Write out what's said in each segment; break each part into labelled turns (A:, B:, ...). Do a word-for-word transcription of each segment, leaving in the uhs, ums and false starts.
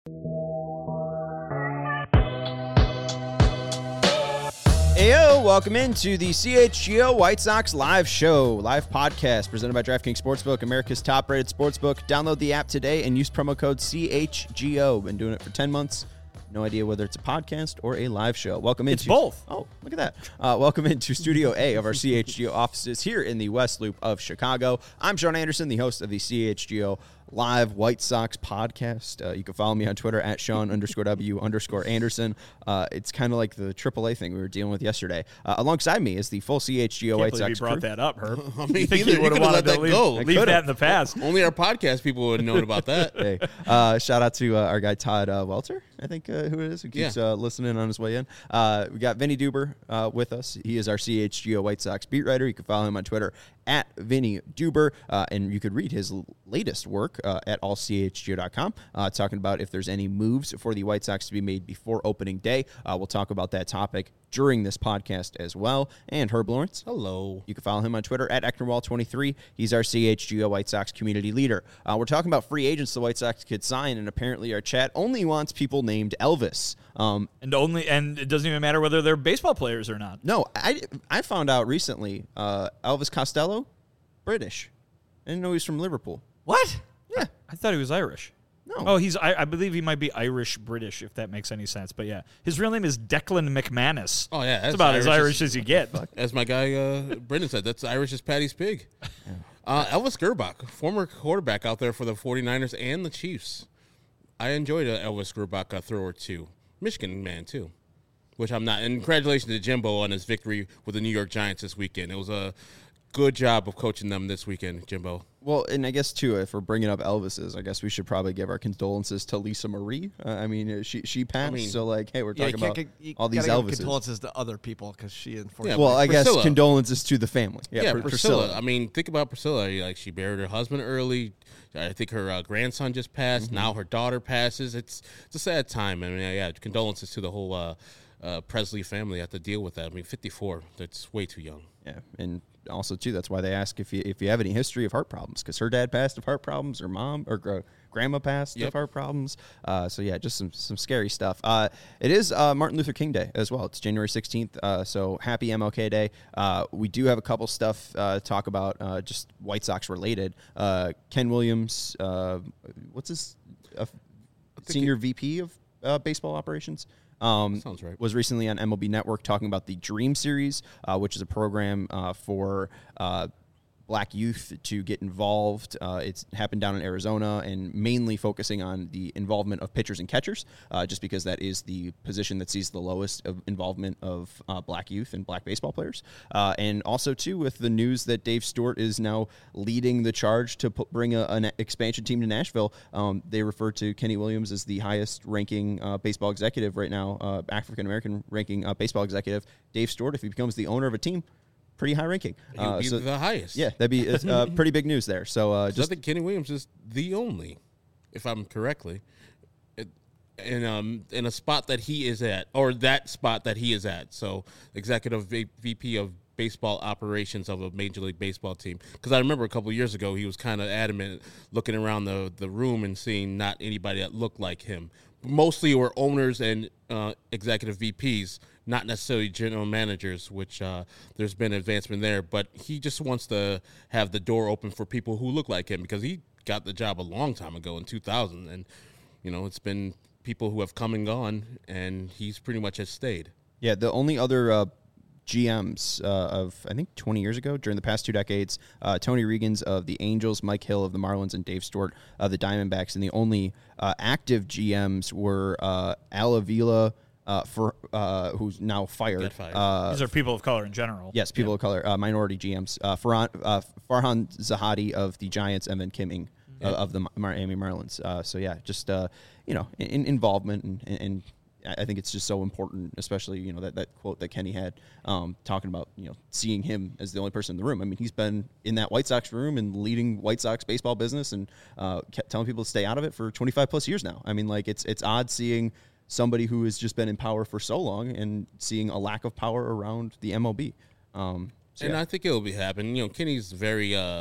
A: Heyo, welcome into the C H G O White Sox live show, live podcast presented by DraftKings Sportsbook, America's top-rated sportsbook. Download the app today and use promo code C H G O. Been doing it for ten months. No idea whether it's a podcast or a live show. Welcome into...
B: It's both.
A: Oh, look at that. Uh, welcome into Studio A of our C H G O offices here in the West Loop of Chicago. I'm Sean Anderson, the host of the C H G O live White Sox podcast. Uh, you can follow me on Twitter at Sean underscore W underscore Anderson. Uh, it's kind of like the triple A thing we were dealing with yesterday. Uh, alongside me is the full C H G O White Sox
B: you brought
A: crew.
B: that up, Herb.
C: I mean,
B: you think
C: either,
B: you would have
C: you
B: wanted
C: let
B: to
C: that
B: leave,
C: go.
B: leave that in the past?
C: Only our podcast people would have known about that.
A: Hey, uh, shout out to uh, our guy Todd uh, Welter, I think uh, who it is, who keeps
C: Yeah.
A: uh, listening on his way in. Uh, we got Vinny Duber uh, with us. He is our C H G O White Sox beat writer. You can follow him on Twitter at Vinny Duber, uh, and you could read his l- latest work uh, at all c h g o dot com, uh, talking about if there's any moves for the White Sox to be made before opening day. Uh, we'll talk about that topic during this podcast as well. And Herb Lawrence.
C: Hello.
A: You can follow him on Twitter at Ecknerwall twenty-three. He's our C H G O White Sox community leader. Uh, we're talking about free agents the White Sox could sign, and apparently our chat only wants people named Elvis. Um,
B: And only, and it doesn't even matter whether they're baseball players or not.
A: no, I, I found out recently uh, Elvis Costello, British. I didn't know he was from Liverpool.
B: What?
A: Yeah.
B: I thought he was Irish.
A: No.
B: Oh, he's. I, I believe he might be Irish British, if that makes any sense. But yeah, his real name is Declan McManus.
C: Oh, yeah.
B: That's about as Irish as you get.
C: As my guy uh, Brendan said, that's Irish as Patty's pig. Uh, Elvis Gerbach, former quarterback out there for the 49ers and the Chiefs. I enjoyed a Elvis Gerbach uh, throw or two. Michigan man, too, which I'm not. And congratulations to Jimbo on his victory with the New York Giants this weekend. It was a good job of coaching them this weekend, Jimbo.
A: Well, and I guess, too, if we're bringing up Elvis's, I guess we should probably give our condolences to Lisa Marie. Uh, I mean, uh, she she passed,
C: I mean,
A: so, like, hey, we're
D: Yeah, you
A: talking
D: can't
A: about
D: get, you
A: all these
D: gotta give
A: Elvises.
D: condolences to other people because she unfortunately.
C: Yeah,
A: Well, I
C: Priscilla.
A: guess condolences to the family. Yeah,
C: Yeah,
A: Pr-
C: Priscilla.
A: Priscilla.
C: I mean, think about Priscilla. Like, she buried her husband early. I think her uh, grandson just passed.
A: Mm-hmm.
C: Now her daughter passes. It's it's a sad time. I mean, yeah, yeah condolences to the whole uh, uh, Presley family. Have to deal with that. I mean, fifty-four. That's way too young.
A: Yeah, and also, too, that's why they ask if you if you have any history of heart problems, because her dad passed of heart problems, her mom or gr- grandma passed
C: Yep.
A: of heart problems. Uh, so, yeah, just some some scary stuff. Uh, it is uh, Martin Luther King Day as well. It's January sixteenth, uh, so happy M L K Day. Uh, we do have a couple stuff uh, to talk about, uh, just White Sox related. Uh, Ken Williams, uh, what's his uh, senior V P of uh, baseball operations? Um,
C: Sounds right.
A: Was recently on M L B Network talking about the Dream Series, uh, which is a program uh, for uh, black youth to get involved. Uh, it's happened down in Arizona and mainly focusing on the involvement of pitchers and catchers, uh, just because that is the position that sees the lowest of involvement of uh, black youth and black baseball players. Uh, and also, too, with the news that Dave Stewart is now leading the charge to put, bring a, an expansion team to Nashville, um, they refer to Kenny Williams as the highest ranking uh, baseball executive right now, uh, African-American ranking uh, baseball executive. Dave Stewart, if he becomes the owner of a team, pretty high ranking.
C: He would
A: Uh,
C: be
A: so,
C: the highest.
A: yeah, that'd be uh, pretty big news there. So uh,
C: Just,
A: just
C: I think Kenny Williams is the only, if I'm correctly, it, in um in a spot that he is at, or that spot that he is at. So executive v- VP of baseball operations of a Major League Baseball team. Because I remember a couple of years ago he was kind of adamant, looking around the the room and seeing not anybody that looked like him. Mostly were owners and uh, executive V Ps, not necessarily general managers, which uh, there's been advancement there. But he just wants to have the door open for people who look like him, because he got the job a long time ago in two thousand. And, you know, it's been people who have come and gone, and he's pretty much has stayed.
A: yeah, the only other uh, G Ms uh, of, I think, twenty years ago, during the past two decades, uh, Tony Regans of the Angels, Mike Hill of the Marlins, and Dave Stewart of the Diamondbacks. And the only uh, active G Ms were uh, Al Avila, uh, for, uh, who's now fired.
C: Got fired.
A: Uh,
B: These are people of color in general.
A: yes, people of color, uh, minority G Ms. Uh, Farhan, uh, Farhan Zahadi of the Giants, and then Kim Ng uh, of the Miami Marlins. Uh, so, yeah, just, uh, you know, in, involvement and, and I think it's just so important, especially, you know, that, that quote that Kenny had um, talking about, you know, seeing him as the only person in the room. I mean, he's been in that White Sox room and leading White Sox baseball business and uh, kept telling people to stay out of it for twenty-five plus years now. I mean, like, it's it's odd seeing somebody who has just been in power for so long and seeing a lack of power around the M L B. Um, so
C: And
A: yeah.
C: I think it'll be happening. You know, Kenny's very, uh,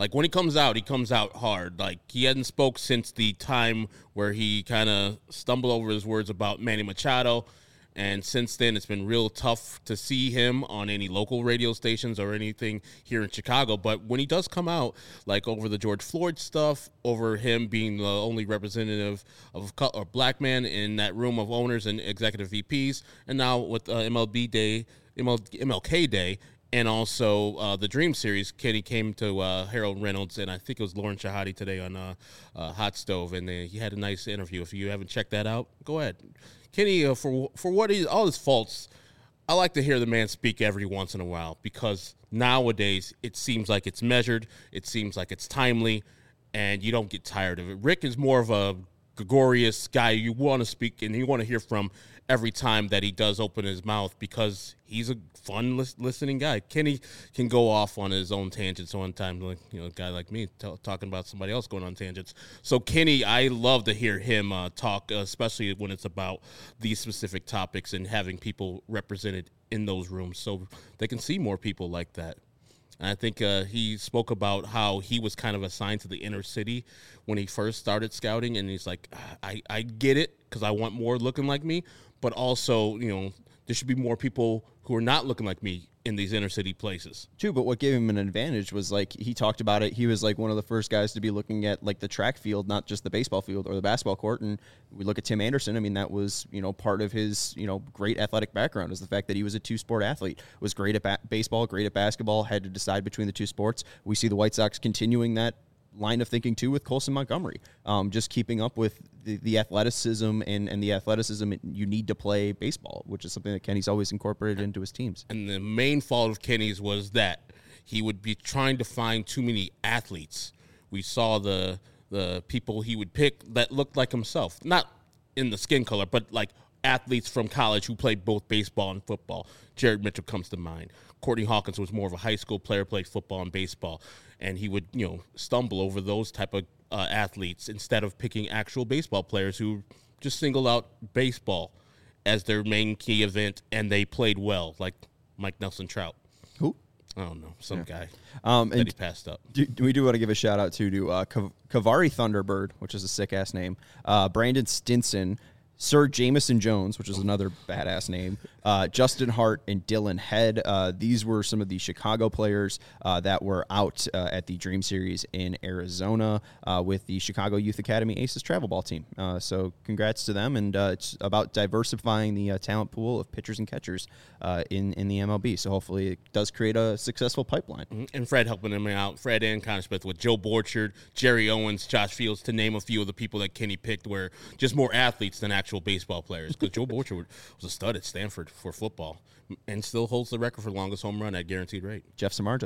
C: Like, when he comes out, he comes out hard. Like, he hadn't spoke since the time where he kind of stumbled over his words about Manny Machado. And since then, it's been real tough to see him on any local radio stations or anything here in Chicago. But when he does come out, like over the George Floyd stuff, over him being the only representative of a black man in that room of owners and executive V Ps, and now with uh, M L B Day, M L K Day, and also uh, the Dream Series, Kenny came to uh, Harold Reynolds, and I think it was Lauren Shahadi today on uh, uh, Hot Stove, and they, he had a nice interview. If you haven't checked that out, go ahead. Kenny, uh, for for what he, all his faults, I like to hear the man speak every once in a while, because nowadays it seems like it's measured, it seems like it's timely, and you don't get tired of it. Rick is more of a gregarious guy you want to speak and you want to hear from every time that he does open his mouth, because he's a fun lis- listening guy. Kenny can go off on his own tangents one time, like, you know, a guy like me t- talking about somebody else going on tangents. So Kenny, I love to hear him uh, talk, uh, especially when it's about these specific topics and having people represented in those rooms so they can see more people like that. And I think uh, he spoke about how he was kind of assigned to the inner city when he first started scouting, and he's like, I, I get it, because I want more looking like me, but also, you know, there should be more people who are not looking like me in these inner city places.
A: Too, but what gave him an advantage was, like, he talked about it. He was like one of the first guys to be looking at, like, the track field, not just the baseball field or the basketball court. And we look at Tim Anderson. I mean, that was, you know, part of his, you know, great athletic background, is the fact that he was a two-sport athlete, was great at ba- baseball, great at basketball, had to decide between the two sports. We see the White Sox continuing that line of thinking too with Colson Montgomery, um, just keeping up with the, the athleticism and, and the athleticism you need to play baseball, which is something that Kenny's always incorporated into his teams.
C: And the main fault of Kenny's was that he would be trying to find too many athletes. We saw the the people he would pick that looked like himself, not in the skin color, but like athletes from college who played both baseball and football. Jared Mitchell comes to mind. Courtney Hawkins was more of a high school player, played football and baseball, and he would, you know, stumble over those type of uh, athletes instead of picking actual baseball players who just single out baseball as their main key event, and they played well, like Mike Nelson Trout.
A: Who?
C: I don't know, some yeah. guy
A: um,
C: that
A: and
C: he passed up.
A: Do, do we do want to give a shout out to to uh, Kavari Thunderbird, which is a sick ass name, uh, Brandon Stinson, Sir Jamison Jones, which is another badass name, uh, Justin Hart, and Dylan Head. Uh, these were some of the Chicago players uh, that were out uh, at the Dream Series in Arizona uh, with the Chicago Youth Academy Aces travel ball team. Uh, so congrats to them, and uh, it's about diversifying the uh, talent pool of pitchers and catchers uh, in, in the M L B. So hopefully it does create a successful pipeline.
C: And Fred helping them out, Fred and Connor Smith with Joe Borchard, Jerry Owens, Josh Fields, to name a few of the people that Kenny picked were just more athletes than actual baseball players, because Joe Borchard was a stud at Stanford for football and still holds the record for longest home run at guaranteed rate.
A: Jeff Samardzija.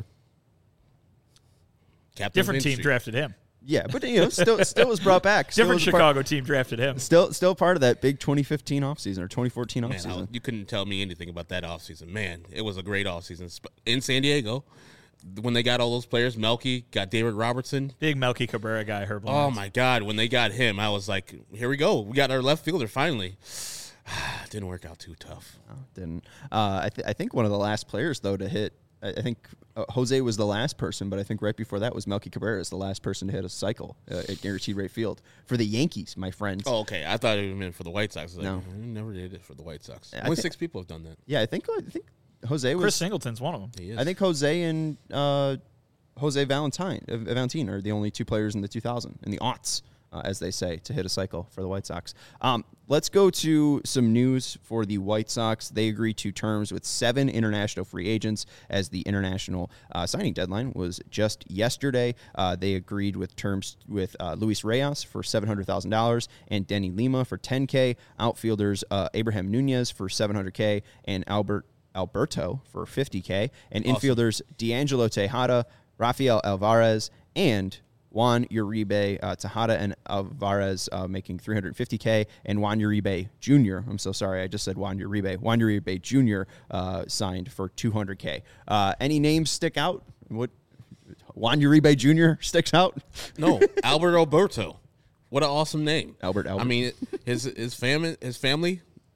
C: Captain
B: Different team drafted him.
A: Yeah, but you know, still still was brought back. Still
B: Different
A: Chicago
B: part, team drafted him.
A: Still still part of that big twenty fifteen offseason or twenty fourteen
C: Man,
A: offseason.
C: I, you couldn't tell me anything about that offseason. Man, it was a great offseason in San Diego. When they got all those players, Melky, got David Robertson.
B: Big Melky Cabrera guy, Herb
C: Oh,
B: Lyons.
C: my God. When they got him, I was like, here we go. We got our left fielder finally. Didn't work out too tough.
A: No, didn't. Uh, I, th- I think one of the last players, though, to hit, I, I think uh, Jose was the last person, but I think right before that was Melky Cabrera, the last person to hit a cycle uh, at Guaranteed Rate Field for the Yankees, my friends.
C: Oh, okay. I thought it meant for the White Sox. I was like,
A: No.
C: I never did it for the White Sox.
A: I
C: Only
A: thi-
C: six people have done that.
A: Yeah, I think I think Jose was.
B: Chris Singleton's one of them.
C: He is.
A: I think Jose and uh, Jose Valentine, uh, Valentine are the only two players in the two thousand, in the aughts, uh, as they say, to hit a cycle for the White Sox. Um, let's go to some news for the White Sox. They agreed to terms with seven international free agents, as the international uh, signing deadline was just yesterday. Uh, they agreed with terms with uh, Luis Reyes for seven hundred thousand dollars and Denny Lima for ten K, outfielders uh, Abraham Nunez for seven hundred K and Albert Alberto for fifty K, and
C: Awesome.
A: infielders D'Angelo Tejada, Rafael Alvarez, and Juan Uribe. uh, Tejada and Alvarez uh, making three hundred fifty K, and Juan Uribe Junior I'm so sorry, I just said Juan Uribe. Juan Uribe Junior Uh, signed for two hundred K. Uh, any names stick out? What Juan Uribe Junior sticks out?
C: No, Albert Alberto. What an awesome name.
A: Albert Albert.
C: I mean, his his family his family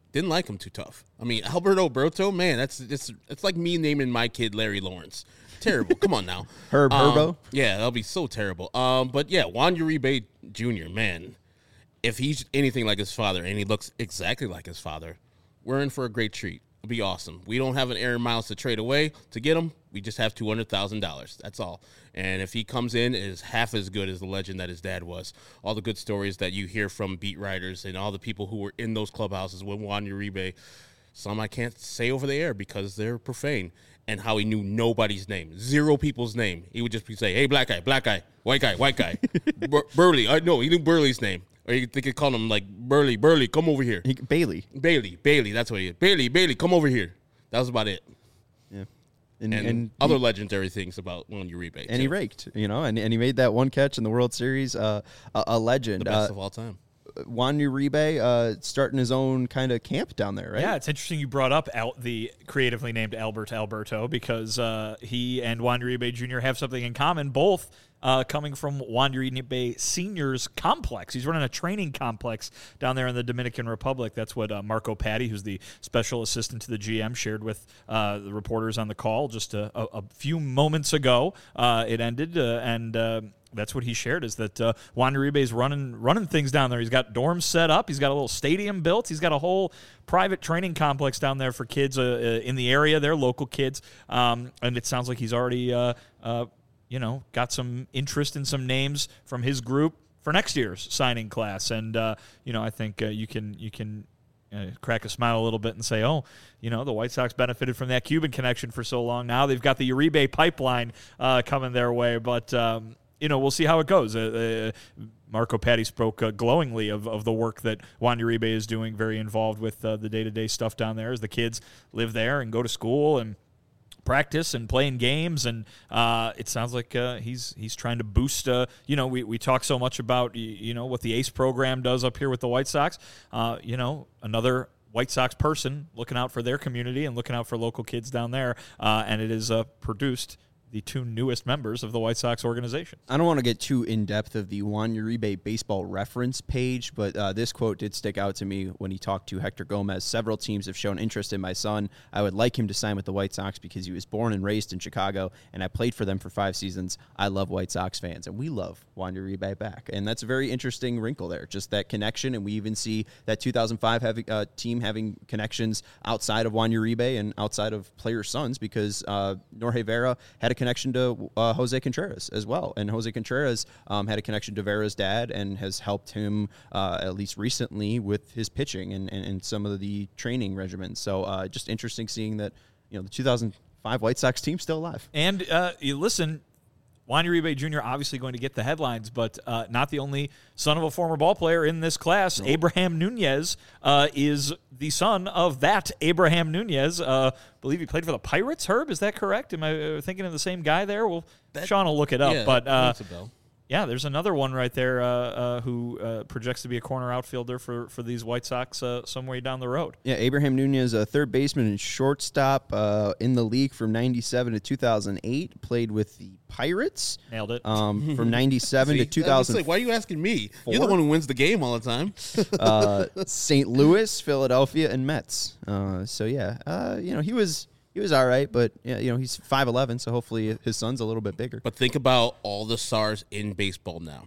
C: Didn't like him too tough. I mean, Alberto Berto, man, that's it's it's like me naming my kid Larry Lawrence. Terrible. Come on now.
A: Herb
C: um,
A: Herbo?
C: Yeah, that'll be so terrible. Um, but yeah, Juan Uribe Junior, man, if he's anything like his father and he looks exactly like his father, we're in for a great treat. It'll be awesome. We don't have an Aaron Miles to trade away to get him. We just have two hundred thousand dollars. That's all. And if he comes in, is half as good as the legend that his dad was. All the good stories that you hear from beat writers and all the people who were in those clubhouses with Juan Uribe, some I can't say over the air because they're profane, and how he knew nobody's name, zero people's name. He would just be say, hey, black guy, black guy, white guy, white guy, Bur- Burley. I know, he knew Burley's name. Or you think he called him like, Burley, Burley, come over here.
A: He, Bailey.
C: Bailey, Bailey, that's what he is. Bailey, Bailey, come over here. That was about it.
A: Yeah.
C: And,
A: and
C: other
A: he,
C: legendary things about Juan Uribe.
A: and
C: too.
A: he raked, you know, and, and he made that one catch in the World Series, uh, a, a legend.
C: The best
A: uh,
C: of all time.
A: Juan Uribe uh, starting his own kind of camp down there, right?
B: Yeah, it's interesting you brought up Al- the creatively named Albert Alberto because uh, he and Juan Uribe Junior have something in common, both uh, coming from Juan Uribe Senior's complex. He's running a training complex down there in the Dominican Republic. That's what uh, Marco Patti, who's the special assistant to the G M, shared with uh, the reporters on the call just a, a, a few moments ago. Uh, it ended, uh, and... Uh, That's what he shared, is that uh, Juan Uribe's running running things down there. He's got dorms set up. He's got a little stadium built. He's got a whole private training complex down there for kids uh, uh, in the area. They're local kids. Um, and it sounds like he's already, uh, uh, you know, got some interest in some names from his group for next year's signing class. And, uh, you know, I think uh, you can you can uh, crack a smile a little bit and say, oh, you know, the White Sox benefited from that Cuban connection for so long. Now they've got the Uribe pipeline uh, coming their way. But, um, you know, we'll see how it goes. Uh, uh, Marco Patti spoke uh, glowingly of, of the work that Juan Uribe is doing, very involved with uh, the day-to-day stuff down there as the kids live there and go to school and practice and playing games. And uh, it sounds like uh, he's he's trying to boost, uh, you know, we, we talk so much about, you know, what the ACE program does up here with the White Sox. Uh, you know, another White Sox person looking out for their community and looking out for local kids down there. Uh, and it is uh, produced the two newest members of the White Sox organization.
A: I don't want to get too in-depth of the Juan Uribe baseball reference page, but uh, this quote did stick out to me when he talked to Hector Gomez. Several teams have shown interest in my son. I would like him to sign with the White Sox because he was born and raised in Chicago, and I played for them for five seasons. I love White Sox fans, and we love Juan Uribe back. And that's a very interesting wrinkle there, just that connection, and we even see that two thousand five having, uh, team having connections outside of Juan Uribe and outside of players' sons because uh, Jorge Vera had a connection to uh, Jose Contreras as well. And Jose Contreras um, had a connection to Vera's dad and has helped him, uh, at least recently, with his pitching and, and, and some of the training regimens. So uh, just interesting seeing that, you know, the two thousand five White Sox team's still alive.
B: And uh, you listen, Juan Uribe Junior obviously going to get the headlines, but uh, not the only son of a former ball player in this class. Nope. Abraham Nunez uh, is the son of that Abraham Nunez. Uh, I believe he played for the Pirates, Herb. Is that correct? Am I uh, thinking of the same guy there? Well, that, Sean will look it up.
C: Yeah,
B: but uh, yeah, there's another one right there uh, uh, who uh, projects to be a corner outfielder for, for these White Sox uh, somewhere down the road.
A: Yeah, Abraham Nunez, a third baseman and shortstop uh, in the league from ninety-seven to two thousand eight, played with the Pirates.
B: Nailed it.
A: Um, from ninety-seven
C: See,
A: to two thousand.
C: Like, why are you asking me?
A: Four?
C: You're the one who wins the game all the time.
A: uh, Saint Louis, Philadelphia, and Mets. Uh, so, yeah, uh, you know, he was... He was all right, but yeah, you know, he's five eleven, so hopefully his son's a little bit bigger.
C: But think about all the stars in baseball now.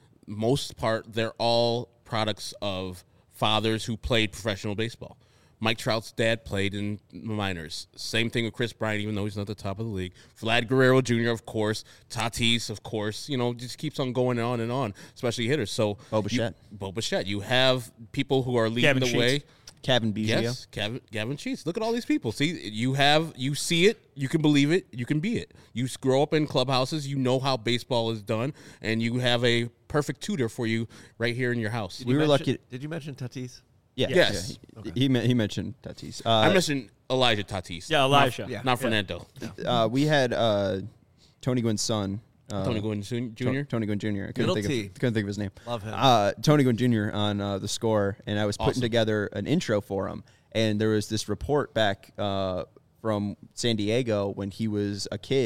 C: Most part, they're all products of fathers who played professional baseball. Mike Trout's dad played in the minors. Same thing with Chris Bryant, even though he's not the top of the league. Vlad Guerrero Junior, of course. Tatis, of course. You know, just keeps on going on and on, especially hitters. So
A: Bo Bichette.
C: You, Bo Bichette. You have people who are leading
B: Gavin
C: the
B: Sheets.
C: way.
A: Kevin Biggio.
C: Yes, Gavin, Gavin Sheets. Look at all these people. See, you have, you see it, you can believe it, you can be it. You grow up in clubhouses, you know how baseball is done, and you have a perfect tutor for you right here in your house.
D: Did
A: We
D: you
A: were
D: mention-
A: lucky-
D: Did you mention Tatis?
A: Yeah.
C: Yes.
A: Yeah, he, he, me- he mentioned Tatis. Uh,
C: I mentioned Elijah Tatis.
B: Yeah, Elijah.
C: Not,
D: Yeah.
C: not Fernando.
A: uh, we had uh, Tony Gwynn's son. Uh,
C: Tony Gwynn Junior
A: To- Tony Gwynn Junior I couldn't
D: Middle
A: think,
D: T.
A: of, couldn't think of his name.
D: Love him.
A: Uh, Tony Gwynn Junior on uh, the score, and I was putting
C: Awesome.
A: together an intro for him. And there was this report back uh, from San Diego when he was a kid,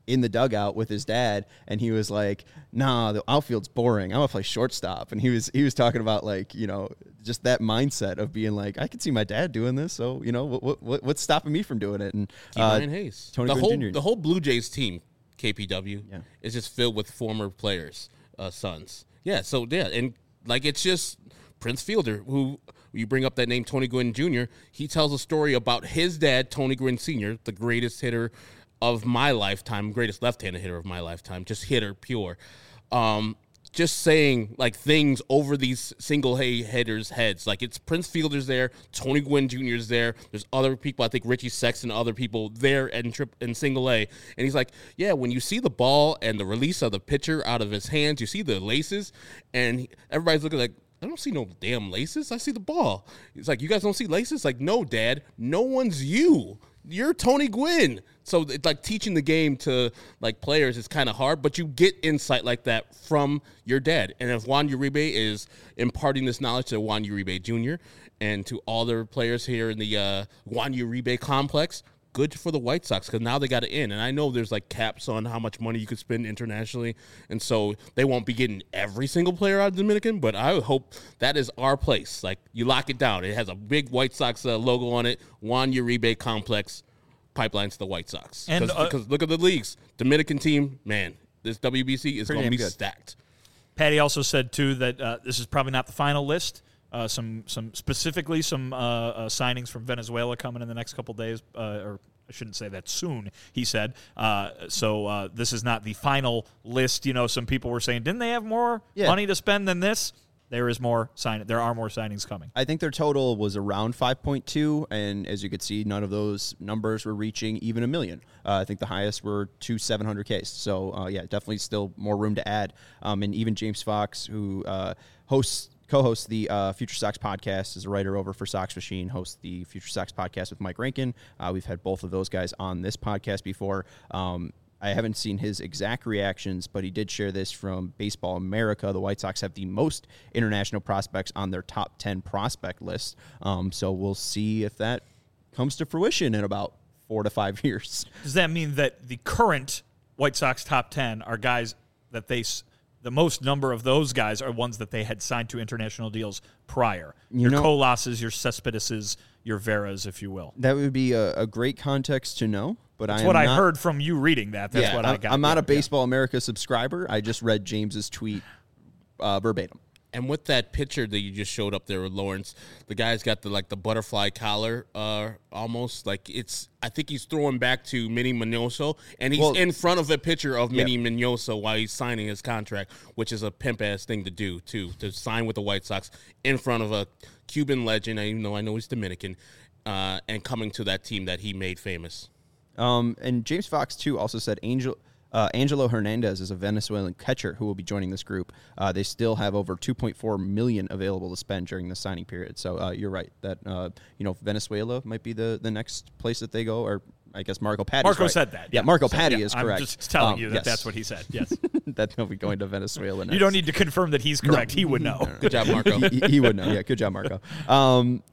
A: in the dugout with his dad, and he was like, "Nah, the outfield's boring. I'm gonna play shortstop." And he was he was talking about like you know just that mindset of being like, I can see my dad doing this, so you know what what what's stopping me from doing it? And uh,
C: Ryan Hayes,
A: Tony
C: the
A: Gwynn
C: whole
A: Junior
C: the whole Blue Jays team, K P W,
A: Yeah.
C: is just filled with former players, uh, sons. Yeah, so yeah, and like it's just Prince Fielder, who you bring up that name, Tony Gwynn Junior He tells a story about his dad, Tony Gwynn Senior, the greatest hitter of my lifetime, greatest left-handed hitter of my lifetime, just hitter pure. Um, just saying like things over these single A hitters' heads. Like it's Prince Fielder's there, Tony Gwynn Junior's there. There's other people, I think Richie Sexton, other people there in trip in single A. And he's like, yeah, when you see the ball and the release of the pitcher out of his hands, you see the laces, and he, everybody's looking like, I don't see no damn laces. I see the ball. He's like, you guys don't see laces? Like, no, Dad, no one's you. You're Tony Gwynn. So it's like teaching the game to like players is kind of hard, but you get insight like that from your dad. And if Juan Uribe is imparting this knowledge to Juan Uribe Junior and to all their players here in the uh, Juan Uribe complex, good for the White Sox because now they got it in. And I know there's like caps on how much money you could spend internationally, and so they won't be getting every single player out of Dominican, but I hope that is our place. Like you lock it down. It has a big White Sox uh, logo on it, Juan Uribe complex. Pipeline to the White Sox.
B: And, uh,
C: because look at the leagues. Dominican team, man, this W B C is
A: Pretty
C: going to be
A: damn good.
C: stacked.
B: Patty also said, too, that uh, this is probably not the final list. Uh, some some specifically some uh, uh, signings from Venezuela coming in the next couple days, uh, or I shouldn't say that soon, he said. Uh, so uh, this is not the final list. You know, some people were saying, didn't they have more
A: Yeah.
B: money to spend than this? There is more sign. There are more signings coming.
A: I think their total was around five point two, and as you could see, none of those numbers were reaching even a million. Uh, I think the highest were two seven hundred Ks. So, uh, yeah, definitely still more room to add. Um, and even James Fox, who uh, hosts, co-hosts the uh, Future Sox podcast, is a writer over for Sox Machine, hosts the Future Sox podcast with Mike Rankin. Uh, we've had both of those guys on this podcast before. Um, I haven't seen his exact reactions, but he did share this from Baseball America. The White Sox have the most international prospects on their top ten prospect list. Um, so we'll see if that comes to fruition in about four to five years.
B: Does that mean that the current White Sox top ten are guys that they, s- the most number of those guys are ones that they had signed to international deals prior?
A: You
B: your
A: know-
B: Colases, your Cespedeses, your Veras, if you will.
A: That would be a, a great context to know. But
B: That's
A: I am
B: what I
A: not,
B: heard from you reading that. That's
A: yeah,
B: what
A: I'm,
B: I got.
A: I'm not
B: Yeah,
A: a Baseball America subscriber. I just read James's tweet uh, verbatim.
C: And with that picture that you just showed up there with Lawrence, the guy's got the like the butterfly collar, uh, almost like it's. I think he's throwing back to Minnie Minoso, and he's
A: Well-
C: in front of a picture of
A: Yeah.
C: Minnie Minoso while he's signing his contract, which is a pimp ass thing to do too, to sign with the White Sox in front of a Cuban legend. Even though I know he's Dominican, uh, and coming to that team that he made famous.
A: Um, and James Fox, too, also said Angel, uh, Angelo Hernandez is a Venezuelan catcher who will be joining this group. Uh, they still have over two point four million dollars available to spend during the signing period. So uh, you're right that uh, you know Venezuela might be the, the next place that they go, or I guess Marco Patti.
B: Marco
A: right.
B: said that.
A: Yeah, Marco
B: So,
A: Patti
B: yeah,
A: is
B: I'm
A: correct.
B: just telling
A: Um,
B: you that
A: yes.
B: that's what he said. Yes.
A: that he'll be going to Venezuela next.
B: You don't need to confirm that he's correct. He would know.
C: Good job, Marco.
A: he, he would know. Yeah, good job, Marco. Um,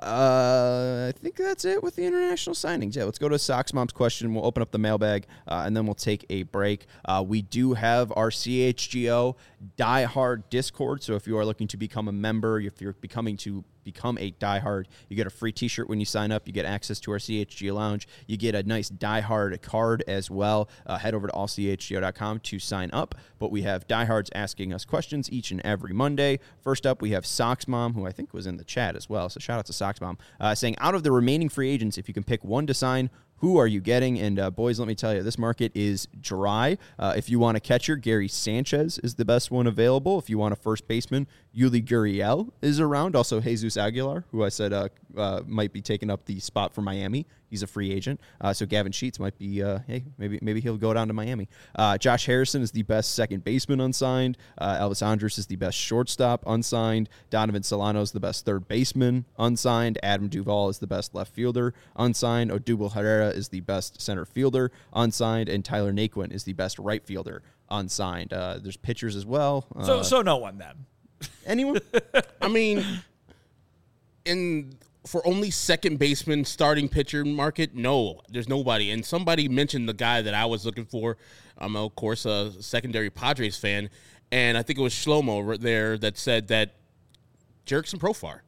A: uh, I think that's it with the international signings. Yeah, let's go to Sox Mom's question. We'll open up the mailbag, uh, and then we'll take a break. Uh, we do have our C H G O Die Hard Discord, so if you are looking to become a member, if you're becoming to become a diehard, you get a free t-shirt when you sign up. You get access to our C H G O lounge. You get a nice diehard card as well. Uh, head over to all c h g o dot com to sign up. But we have diehards asking us questions each and every Monday. First up, we have Sox Mom, who I think was in the chat as well. So shout out to Sox Mom, uh, saying, out of the remaining free agents, if you can pick one to sign, who are you getting? And uh, boys, let me tell you, this market is dry. Uh, if you want a catcher, Gary Sanchez is the best one available. If you want a first baseman, Yuli Gurriel is around. Also, Jesus Aguilar, who I said uh, uh, might be taking up the spot for Miami. He's a free agent. Uh, so Gavin Sheets might be, uh, hey, maybe maybe he'll go down to Miami. Uh, Josh Harrison is the best second baseman unsigned. Uh, Elvis Andrus is the best shortstop unsigned. Donovan Solano is the best third baseman unsigned. Adam Duvall is the best left fielder unsigned. Odubel Herrera is the best center fielder unsigned. And Tyler Naquin is the best right fielder unsigned. Uh, there's pitchers as well. Uh,
B: So, so no one then.
A: anyone?
C: I mean, in for only second baseman starting pitcher market, no, there's nobody. And somebody mentioned the guy that I was looking for. I'm, of course, a secondary Padres fan. And I think it was Shlomo right there that said that Jurickson Profar,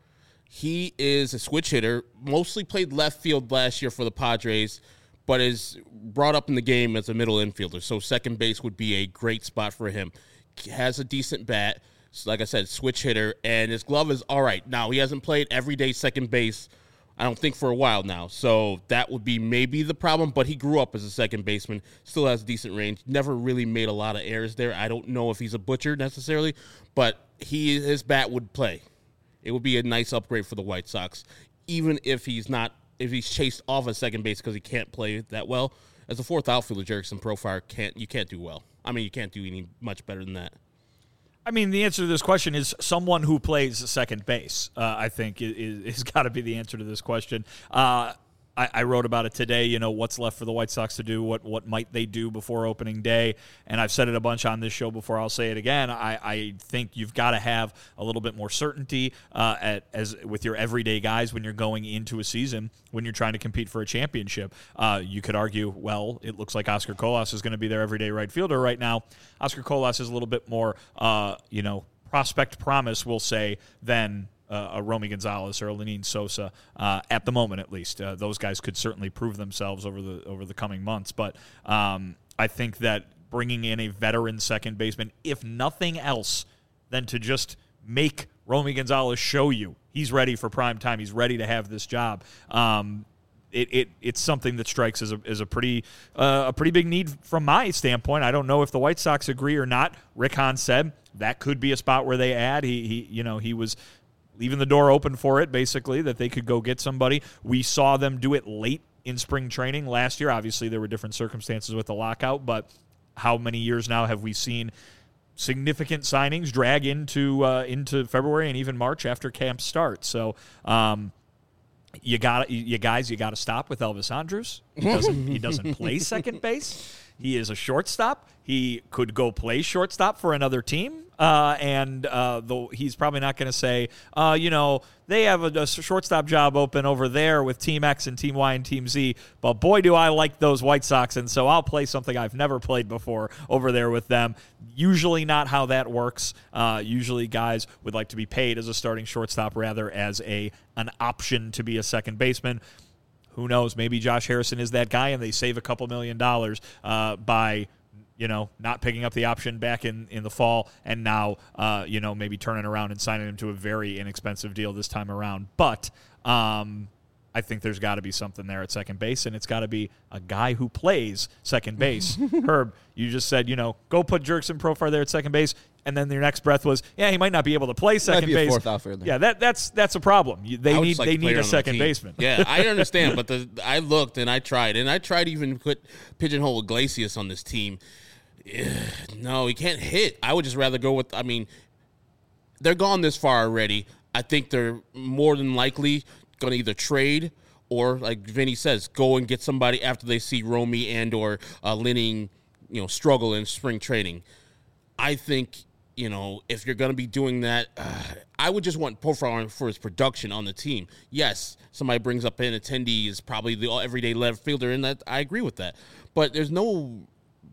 C: he is a switch hitter, mostly played left field last year for the Padres, but is brought up in the game as a middle infielder. So second base would be a great spot for him. He has a decent bat. Like I said, switch hitter, and his glove is all right. Now, he hasn't played everyday second base, I don't think, for a while now. So that would be maybe the problem, but he grew up as a second baseman, still has decent range, never really made a lot of errors there. I don't know if he's a butcher necessarily, but he his bat would play. It would be a nice upgrade for the White Sox, even if he's not, if he's chased off at second base because he can't play that well. As a fourth outfielder, Jurickson Profar can't, you can't do well. I mean, you can't do any much better than that.
B: I mean, the answer to this question is someone who plays second base, uh, I think, is, is got to be the answer to this question. Uh, I, I wrote about it today, you know, what's left for the White Sox to do, what what might they do before opening day, and I've said it a bunch on this show before, I'll say it again. I, I think you've got to have a little bit more certainty uh, at, as with your everyday guys when you're going into a season, when you're trying to compete for a championship. Uh, you could argue, well, it looks like Oscar Colas is going to be their everyday right fielder right now. Oscar Colas is a little bit more, uh, you know, prospect promise, we'll say, than Uh, a Romy Gonzalez or a Lenyn Sosa uh, at the moment, at least. Uh, those guys could certainly prove themselves over the over the coming months. But um, I think that bringing in a veteran second baseman, if nothing else, than to just make Romy Gonzalez show you he's ready for prime time, he's ready to have this job. Um, It, it it's something that strikes as a as a pretty uh, a pretty big need from my standpoint. I don't know if the White Sox agree or not. Rick Hahn said that could be a spot where they add. He he you know he was leaving the door open for it, basically, that they could go get somebody. We saw them do it late in spring training last year. Obviously, there were different circumstances with the lockout, but how many years now have we seen significant signings drag into uh, into February and even March after camp starts? So, um, you got you guys, you got to stop with Elvis Andrus. He doesn't he doesn't play second base. He is a shortstop. He could go play shortstop for another team, uh, and uh, though he's probably not going to say, uh, you know, they have a, a shortstop job open over there with Team X and Team Y and Team Z, but boy, do I like those White Sox, and so I'll play something I've never played before over there with them. Usually not how that works. Uh, usually guys would like to be paid as a starting shortstop rather as a an option to be a second baseman. Who knows? Maybe Josh Harrison is that guy, and they save a couple million dollars uh, by, you know, not picking up the option back in, in the fall, and now, uh, you know, maybe turning around and signing him to a very inexpensive deal this time around. But um, I think there's got to be something there at second base, and it's got to be a guy who plays second base. Herb, you just said, you know, go put Jurickson Profar there at second base. And then your next breath was, yeah, he might not be able to play second
A: Might be a
B: base.
A: fourth outfielder.
B: Yeah, that that's that's a problem. You- They
C: I would
B: need
C: just like
B: they
C: to play
B: need
C: her
B: a
C: on the
B: second
C: team.
B: baseman.
C: Yeah, I understand, but the, I looked and I tried, and I tried to even put pigeonhole Iglesias on this team. Ugh, no, he can't hit. I would just rather go with, I mean, they're gone this far already. I think they're more than likely going to either trade or, like Vinny says, go and get somebody after they see Romy and or uh, Lenyn, you know, struggle in spring training. I think, you know, if you're going to be doing that, uh, I would just want Profar for his production on the team. Yes, somebody brings up an attendee is probably the everyday left fielder, and that I agree with that. But there's no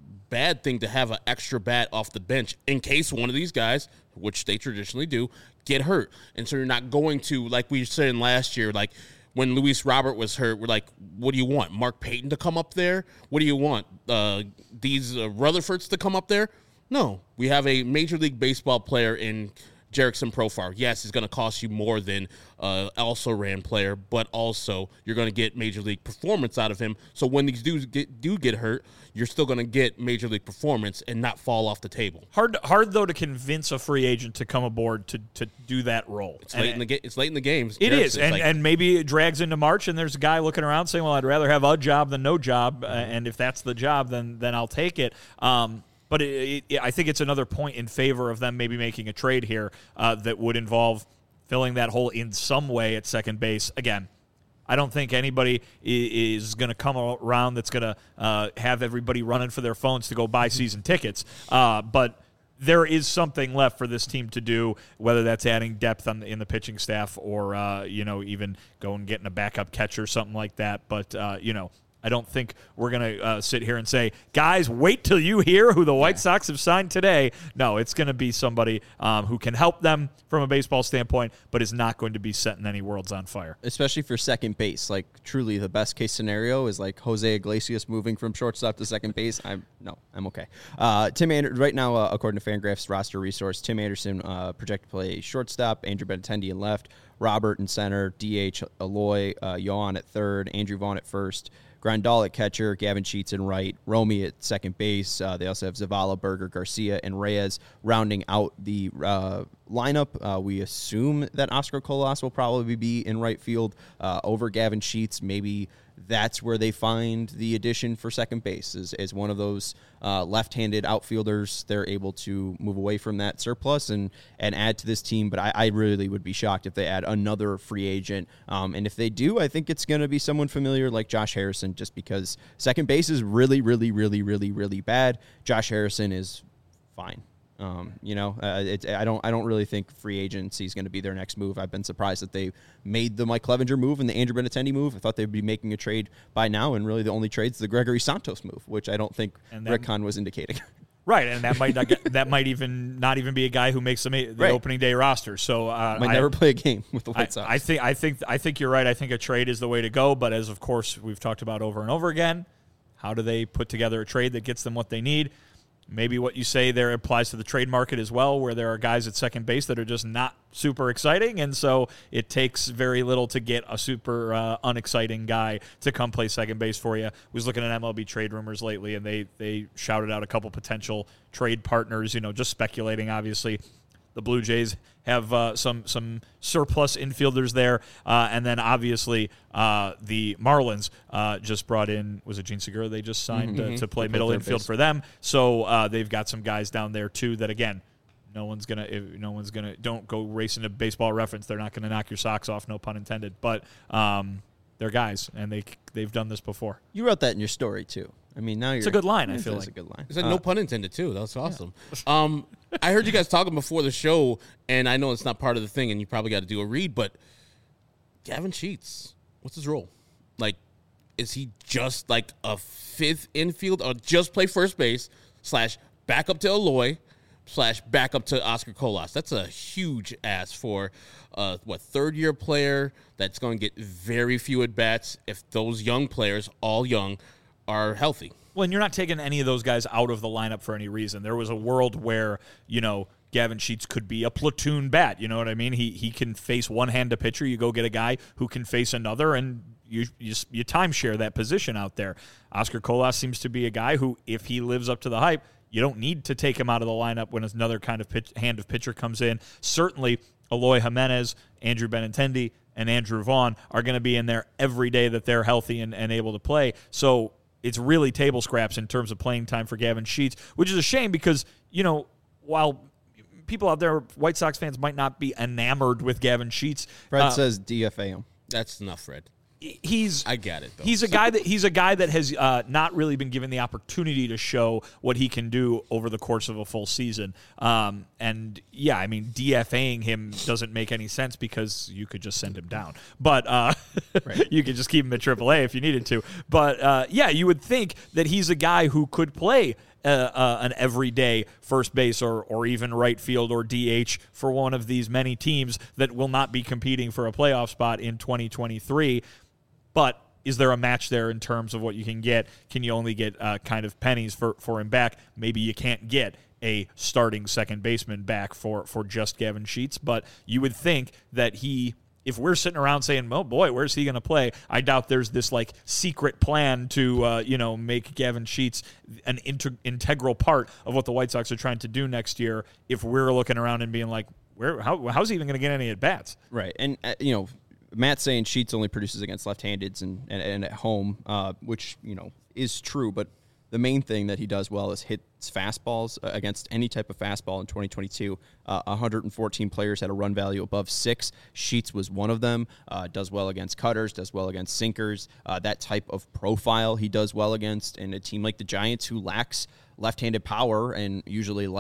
C: bad thing to have an extra bat off the bench in case one of these guys, which they traditionally do, get hurt. And so you're not going to, like we said last year, like when Luis Robert was hurt, we're like, what do you want? Mark Payton to come up there? What do you want? Uh, these uh, Rutherfords to come up there? No, we have a Major League Baseball player in Jurickson Profar. Yes, it's going to cost you more than uh, also-ran player, but also you're going to get Major League performance out of him. So when these dudes get, do get hurt, you're still going to get Major League performance and not fall off the table.
B: Hard, hard though, to convince a free agent to come aboard to, to do that role.
C: It's late in the ga- It's late in the games.
B: It
C: Jurickson,
B: is, and,
C: like,
B: and maybe it drags into March, and there's a guy looking around saying, well, I'd rather have a job than no job, uh, and if that's the job, then then I'll take it. Um, But it, it, I think it's another point in favor of them maybe making a trade here uh, that would involve filling that hole in some way at second base. Again, I don't think anybody is going to come around that's going to uh, have everybody running for their phones to go buy season tickets. Uh, but there is something left for this team to do, whether that's adding depth on the, in the pitching staff or, uh, you know, even going and getting a backup catcher, something like that. But, uh, you know, I don't think we're going to uh, sit here and say, guys, wait till you hear who the White Sox have signed today. No, it's going to be somebody um, who can help them from a baseball standpoint, but is not going to be setting any worlds on fire.
A: Especially for second base. Like, truly, the best case scenario is like Jose Iglesias moving from shortstop to second base. I'm No, I'm okay. Uh, Tim Anderson, right now, uh, according to Fangraphs roster resource, Tim Anderson uh, projected to play shortstop, Andrew Benintendi in left, Robert in center, D H Eloy, uh, Yohan at third, Andrew Vaughn at first, Grandal at catcher, Gavin Sheets in right, Romy at second base. Uh, they also have Zavala, Berger, Garcia, and Reyes rounding out the uh, lineup. Uh, we assume that Oscar Colas will probably be in right field uh, over Gavin Sheets. Maybe that's where they find the addition for second base is, is one of those uh, left-handed outfielders. They're able to move away from that surplus and, and add to this team. But I, I really would be shocked if they add another free agent. Um, and if they do, I think it's going to be someone familiar like Josh Harrison, just because second base is really, really, really, really, really bad. Josh Harrison is fine. Um, you know, uh, it, I don't. I don't really think free agency is going to be their next move. I've been surprised that they made the Mike Clevenger move and the Andrew Benintendi move. I thought they'd be making a trade by now, and really the only trade's the Gregory Santos move, which I don't think
B: And
A: Rick Hahn was indicating.
B: Right, and that might not get, that might even not even be a guy who makes the, the
A: Right.
B: opening day roster. So uh,
A: Might
B: I,
A: never play a game with the White
B: I,
A: Sox.
B: I think I think I think you're right. I think a trade is the way to go. But as of course we've talked about over and over again, how do they put together a trade that gets them what they need? Maybe what you say there applies to the trade market as well, where there are guys at second base that are just not super exciting, and so it takes very little to get a super uh, unexciting guy to come play second base for you. I was looking at M L B trade rumors lately, and they they shouted out a couple potential trade partners, you know, just speculating, obviously. The Blue Jays have uh, some some surplus infielders there, uh, and then obviously uh, the Marlins uh, just brought in, was it Gene Segura they just signed
A: Mm-hmm.
B: uh, to play
A: To play
B: middle
A: third
B: infield
A: base.
B: for them. So uh, they've got some guys down there too that, again, no one's gonna if no one's gonna don't go racing to Baseball Reference. They're not gonna knock your socks off, no pun intended. But um, they're guys, and they they've done this before.
A: You wrote that in your story too. I mean, now you're.
B: a good line, I
A: It
B: feel
A: is
B: like.
A: a good line.
C: It's like
A: Uh,
C: no pun intended too. That was awesome. Um, I heard you guys talking before the show, and I know it's not part of the thing, and you probably got to do a read. But Gavin Sheets, what's his role? Like, is he just like a fifth infield, or just play first base slash back up to Eloy slash back up to Oscar Colas? That's a huge ask for uh, what third year player that's going to get very few at bats if those young players, all young, are healthy.
B: Well, and you're not taking any of those guys out of the lineup for any reason. There was a world where, you know, Gavin Sheets could be a platoon bat. You know what I mean? He he can face one-handed pitcher. You go get a guy who can face another, and you you, you timeshare that position out there. Oscar Colas seems to be a guy who, if he lives up to the hype, you don't need to take him out of the lineup when another kind of pitch, hand of pitcher comes in. Certainly, Eloy Jimenez, Andrew Benintendi, and Andrew Vaughn are going to be in there every day that they're healthy and, and able to play. So it's really table scraps in terms of playing time for Gavin Sheets, which is a shame because, you know, while people out there, White Sox fans, might not be enamored with Gavin Sheets,
A: Fred
B: uh,
A: says D F A him.
C: That's enough, Fred.
B: he's
C: I get it, though.
B: He's a guy that he's a guy that has uh, not really been given the opportunity to show what he can do over the course of a full season. Um, and yeah, I mean, DFAing him doesn't make any sense because you could just send him down, but uh,
A: Right.
B: you could just keep him at triple A if you needed to. But uh, yeah, you would think that he's a guy who could play Uh, uh, an everyday first base or or even right field or D H for one of these many teams that will not be competing for a playoff spot in twenty twenty-three. But is there a match there in terms of what you can get? Can you only get uh, kind of pennies for, for him back? Maybe you can't get a starting second baseman back for, for just Gavin Sheets, but you would think that he, if we're sitting around saying, oh boy, where's he going to play? I doubt there's this like secret plan to, uh, you know, make Gavin Sheets an inter- integral part of what the White Sox are trying to do next year. If we're looking around and being like, where, how, how's he even going to get any at bats?
A: Right. And, uh, you know, Matt's saying Sheets only produces against left-handeds and, and, and at home, uh, which, you know, is true. But the main thing that he does well is hits fastballs uh, against any type of fastball in twenty twenty-two. Uh, one hundred fourteen players had a run value above six. Sheets was one of them. Uh, does well against cutters, does well against sinkers. Uh, that type of profile he does well against. And a team like the Giants, who lacks left-handed power and usually likes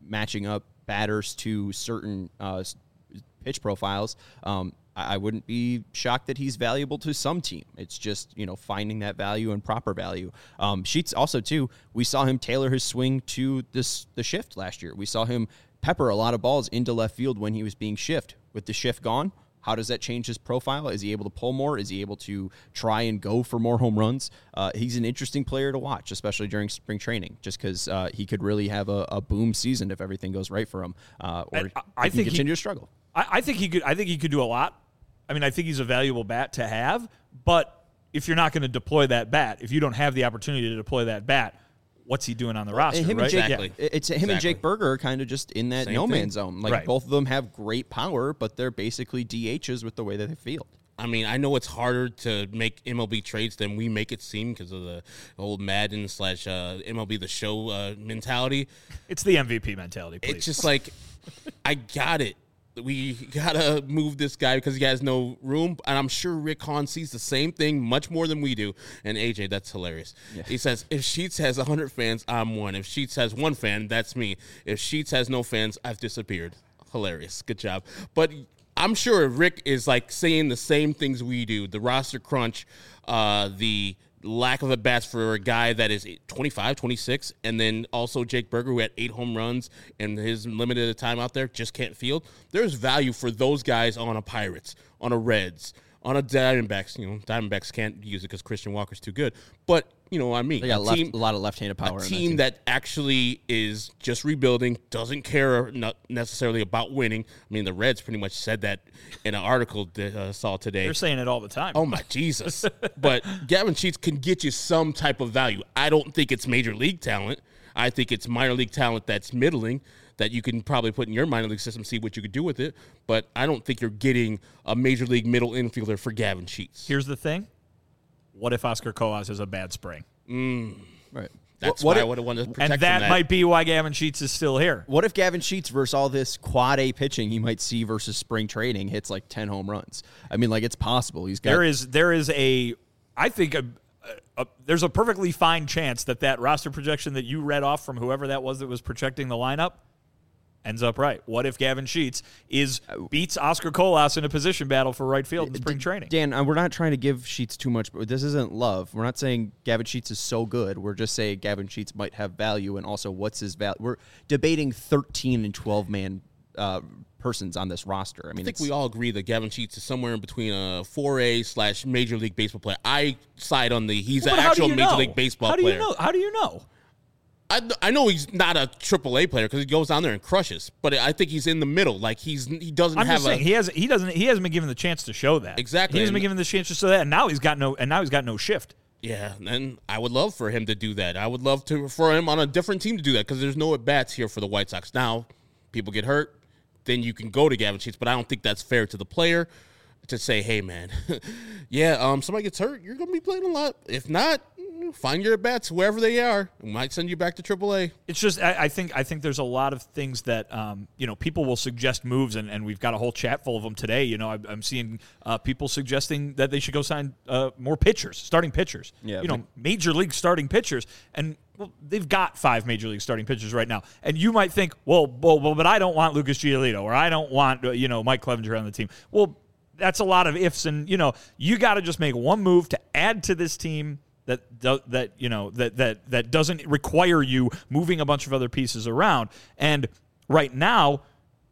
A: matching up batters to certain uh, pitch profiles, um, I wouldn't be shocked that he's valuable to some team. It's just, you know, finding that value and proper value. Um, Sheets also, too, we saw him tailor his swing to this the shift last year. We saw him pepper a lot of balls into left field when he was being shift. With the shift gone, how does that change his profile? Is he able to pull more? Is he able to try and go for more home runs? Uh, he's an interesting player to watch, especially during spring training, just because uh, he could really have a, a boom season if everything goes right for him, uh, or
B: I, I
A: he
B: think
A: can continue
B: he,
A: to struggle.
B: I, I think he could. I think he could do a lot. I mean, I think he's a valuable bat to have, but if you're not going to deploy that bat, if you don't have the opportunity to deploy that bat, what's he doing on the roster,
A: him
B: right?
A: And Jake,
C: Exactly.
A: yeah, it's him
C: Exactly.
A: and Jake Berger are kind of just in that
C: Same
A: no
C: thing.
A: man's zone. Like
B: Right.
A: both of them have great power, but they're basically D Hs with the way that they field.
C: I mean, I know it's harder to make M L B trades than we make it seem because of the old Madden slash uh, M L B The Show uh, mentality.
B: It's the M V P mentality, please.
C: It's just like, I got it. We gotta move this guy because he has no room, and I'm sure Rick Hahn sees the same thing much more than we do. And A J, that's hilarious.
A: Yeah.
C: He says, "If Sheets has one hundred fans, I'm one. If Sheets has one fan, that's me. If Sheets has no fans, I've disappeared." Hilarious. Good job. But I'm sure Rick is like saying the same things we do. The roster crunch, uh, the lack of at bats for a guy that is twenty-five, twenty-six, and then also Jake Berger, who had eight home runs and his limited time out there, just can't field. There's value for those guys on a Pirates, on a Reds, on a Diamondbacks. You know, Diamondbacks can't use it because Christian Walker's too good. But you know what I mean.
A: They got
C: a,
A: left,
C: team,
A: a lot of left-handed power.
C: a
A: in
C: team
A: that,
C: that actually is just rebuilding, doesn't care not necessarily about winning. I mean, the Reds pretty much said that in an article that I uh, saw today.
B: They're saying it all the time.
C: Oh, my Jesus. But Gavin Sheets can get you some type of value. I don't think it's major league talent. I think it's minor league talent that's middling that you can probably put in your minor league system, see what you could do with it. But I don't think you're getting a major league middle infielder for Gavin Sheets.
B: Here's the thing. What if Oscar Colas has a bad spring?
C: Mm,
A: right.
C: that's
A: what
C: why
A: if,
C: I would have wanted to protect
B: And that,
C: from that
B: might be why Gavin Sheets is still here.
A: What if Gavin Sheets versus all this quad A pitching he might see versus spring training hits like ten home runs? I mean, like it's possible. He's got
B: There is there is a I think a, a, there's a perfectly fine chance that that roster projection that you read off from whoever that was that was projecting the lineup ends up right. What if Gavin Sheets is beats Oscar Colas in a position battle for right field in spring training?
A: Dan, uh, we're not trying to give Sheets too much, but this isn't love. We're not saying Gavin Sheets is so good. We're just saying Gavin Sheets might have value, and also what's his value. We're debating thirteen and twelve man uh, persons on this roster. I mean,
C: I think
A: it's,
C: we all agree that Gavin Sheets is somewhere in between a four A slash Major League Baseball player. I side on the he's
B: Well,
C: an
B: but how do
C: actual
B: you
C: Major
B: know?
C: League Baseball
B: How do
C: player.
B: you know? How do you know?
C: I, I know he's not a triple A player because he goes down there and crushes, but I think he's in the middle. Like he's he doesn't
B: I'm
C: have
B: just
C: a
B: saying he has he doesn't he hasn't been given the chance to show that.
C: Exactly.
B: He hasn't been
C: And-
B: given the chance to show that, and now he's got no and now he's got no shift.
C: yeah. And I would love for him to do that. I would love to for him on a different team to do that because there's no at bats here for the White Sox. Now people get hurt, then you can go to Gavin Sheets, but I don't think that's fair to the player to say, hey man, yeah, um, somebody gets hurt, you're gonna be playing a lot. If not, find your at bats wherever they are. We might send you back to triple A.
B: It's just I, I think I think there's a lot of things that um, you know people will suggest moves, and, and we've got a whole chat full of them today. You know, I, I'm seeing uh, people suggesting that they should go sign uh, more pitchers, starting pitchers.
A: Yeah,
B: you know,
A: but-
B: major league starting pitchers, and well, they've got five major league starting pitchers right now. And you might think, well, well, well but I don't want Lucas Giolito, or I don't want uh, you know Mike Clevenger on the team. Well, that's a lot of ifs, and you know you got to just make one move to add to this team. That do, that you know that that that doesn't require you moving a bunch of other pieces around. And right now,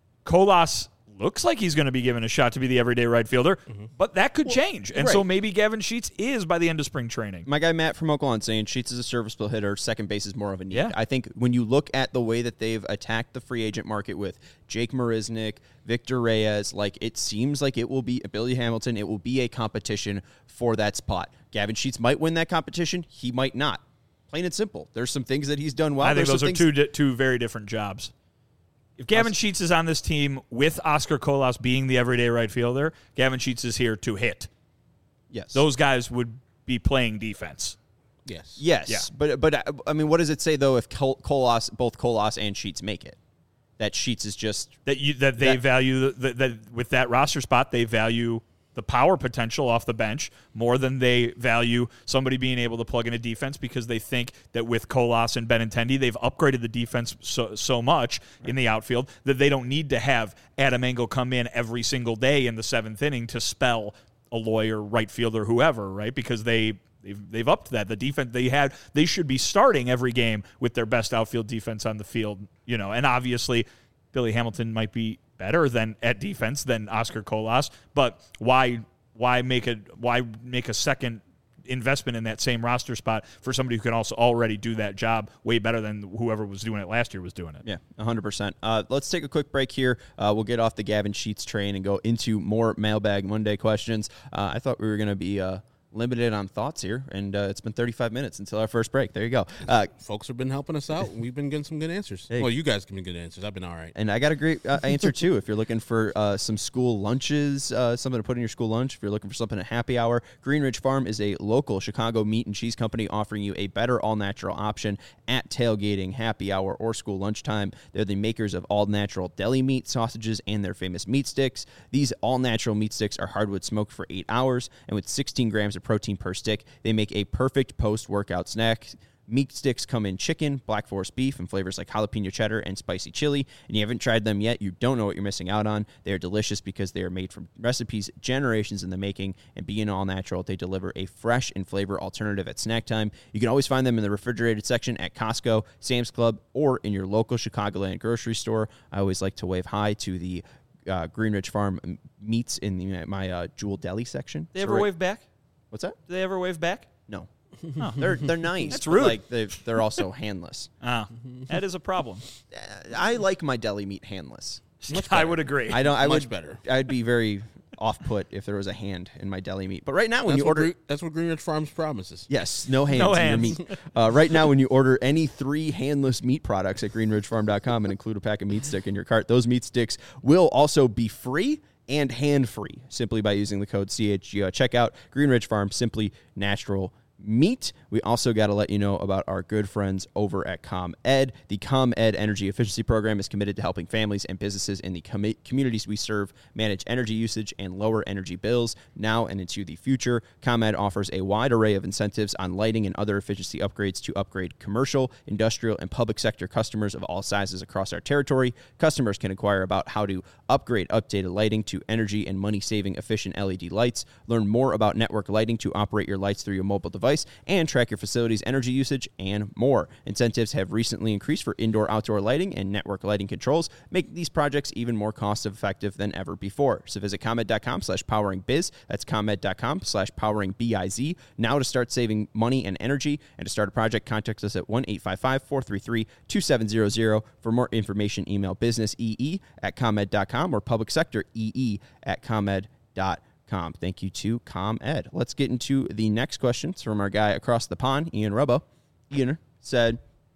B: Colas looks like he's going to be given a shot to be the everyday right fielder, mm-hmm. but that could change. And
A: right.
B: so maybe Gavin Sheets is by the end of spring training.
A: My guy Matt from Oakland saying Sheets is a serviceable hitter. Second base is more of a need.
B: Yeah.
A: I think when you look at the way that they've attacked the free agent market with Jake Marisnick, Victor Reyes, like it seems like it will be Billy Hamilton. It will be a competition for that spot. Gavin Sheets might win that competition. He might not. Plain and simple. There's some things that he's done well.
B: I think
A: There's
B: those are
A: some
B: two di- two very different jobs. If Gavin Sheets is on this team with Oscar Colas being the everyday right fielder, Gavin Sheets is here to hit.
A: Yes.
B: Those guys would be playing defense.
C: Yes.
A: Yes,
B: Yeah.
A: but but I mean, what does it say though if Col- Colas, both Colas and Sheets make it? That Sheets is just
B: That you that they
A: That-
B: value that, that with that roster spot they value the power potential off the bench more than they value somebody being able to plug in a defense, because they think that with Colas and Benintendi, they've upgraded the defense so, so much in the outfield that they don't need to have Adam Engel come in every single day in the seventh inning to spell a lawyer, right fielder, whoever, right? Because they they've, they've upped that. The defense they had, they should be starting every game with their best outfield defense on the field, you know. And obviously, Billy Hamilton might be better than at defense than Oscar Colas, but why why make a why make a second investment in that same roster spot for somebody who can also already do that job way better than whoever was doing it last year was doing it?
A: Yeah, one hundred percent. Uh, let's take a quick break here. Uh, we'll get off the Gavin Sheets train and go into more Mailbag Monday questions. Uh, I thought we were going to be uh, limited on thoughts here, and uh, it's been thirty-five minutes until our first break. There you go. Uh,
C: Folks have been helping us out. We've been getting some good answers.
A: Hey.
C: Well, you guys give me good answers. I've been all right.
A: And I got a great uh, answer, too. If you're looking for uh, some school lunches, uh, something to put in your school lunch, if you're looking for something at happy hour, Green Ridge Farm is a local Chicago meat and cheese company offering you a better all-natural option at tailgating, happy hour, or school lunchtime. They're the makers of all-natural deli meat, sausages, and their famous meat sticks. These all-natural meat sticks are hardwood smoked for eight hours, and with sixteen grams of protein per stick, they make a perfect post-workout snack. Meat sticks come in chicken, Black Forest beef, and flavors like jalapeno cheddar and spicy chili. And you haven't tried them yet, you don't know what you're missing out on. They are delicious because they are made from recipes generations in the making, and being all natural, they deliver a fresh and flavor alternative at snack time. You can always find them in the refrigerated section at Costco, Sam's Club, or in your local Chicagoland grocery store. I always like to wave hi to the uh, Green Ridge Farm meats in the, my uh, Jewel Deli section.
B: They
A: So
B: ever
A: right-
B: wave back?
A: What's that?
B: Do they ever wave back?
A: No. They're they're nice.
B: That's
A: but,
B: rude.
A: Like they they're also handless.
B: Ah, that is a problem.
A: I like my deli meat handless.
B: I would agree.
A: I don't. I
C: Much
A: would
C: better.
A: I'd be very off put if there was a hand in my deli meat. But right now, when
C: That's
A: you
C: what,
A: order,
C: Green, that's what Green Ridge Farms promises.
A: yes, no hands
B: No
A: in
B: hands.
A: your meat. Uh, right now, when you order any three handless meat products at green ridge farm dot com and include a pack of meat stick in your cart, those meat sticks will also be free and hand-free simply by using the code C H G O at checkout. Green Ridge Farm, simply natural meat. We also got to let you know about our good friends over at ComEd. The ComEd Energy Efficiency Program is committed to helping families and businesses in the com- communities we serve manage energy usage and lower energy bills now and into the future. ComEd offers a wide array of incentives on lighting and other efficiency upgrades to upgrade commercial, industrial, and public sector customers of all sizes across our territory. Customers can inquire about how to upgrade updated lighting to energy and money-saving efficient L E D lights, learn more about network lighting to operate your lights through your mobile device, and track your facility's energy usage, and more. Incentives have recently increased for indoor-outdoor lighting and network lighting controls, making these projects even more cost-effective than ever before. So visit ComEd.com slash poweringbiz. That's ComEd.com slash poweringbiz now to start saving money and energy. And to start a project, contact us at one eight five five, four three three, two seven zero zero. For more information, email businessee at ComEd dot com or public sector ee at ComEd dot com. Com. Thank you to ComEd. Let's get into the next questions from our guy across the pond, Ian Rubbo. Ian said,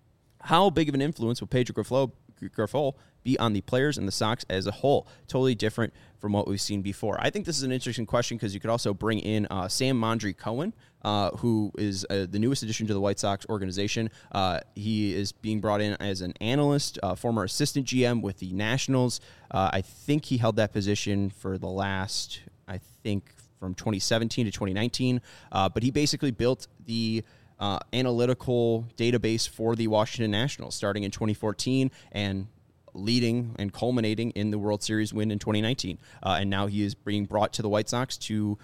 A: how big of an influence will Pedro Grifol, Grifol be on the players and the Sox as a whole? Totally different from what we've seen before. I think this is an interesting question because you could also bring in uh, Sam Mondry Cohen, uh, who is uh, the newest addition to the White Sox organization. Uh, he is being brought in as an analyst, uh, former assistant G M with the Nationals. Uh, I think he held that position for the last... I think from twenty seventeen to twenty nineteen, uh, but he basically built the uh, analytical database for the Washington Nationals starting in twenty fourteen and leading and culminating in the World Series win in twenty nineteen. Uh, and now he is being brought to the White Sox to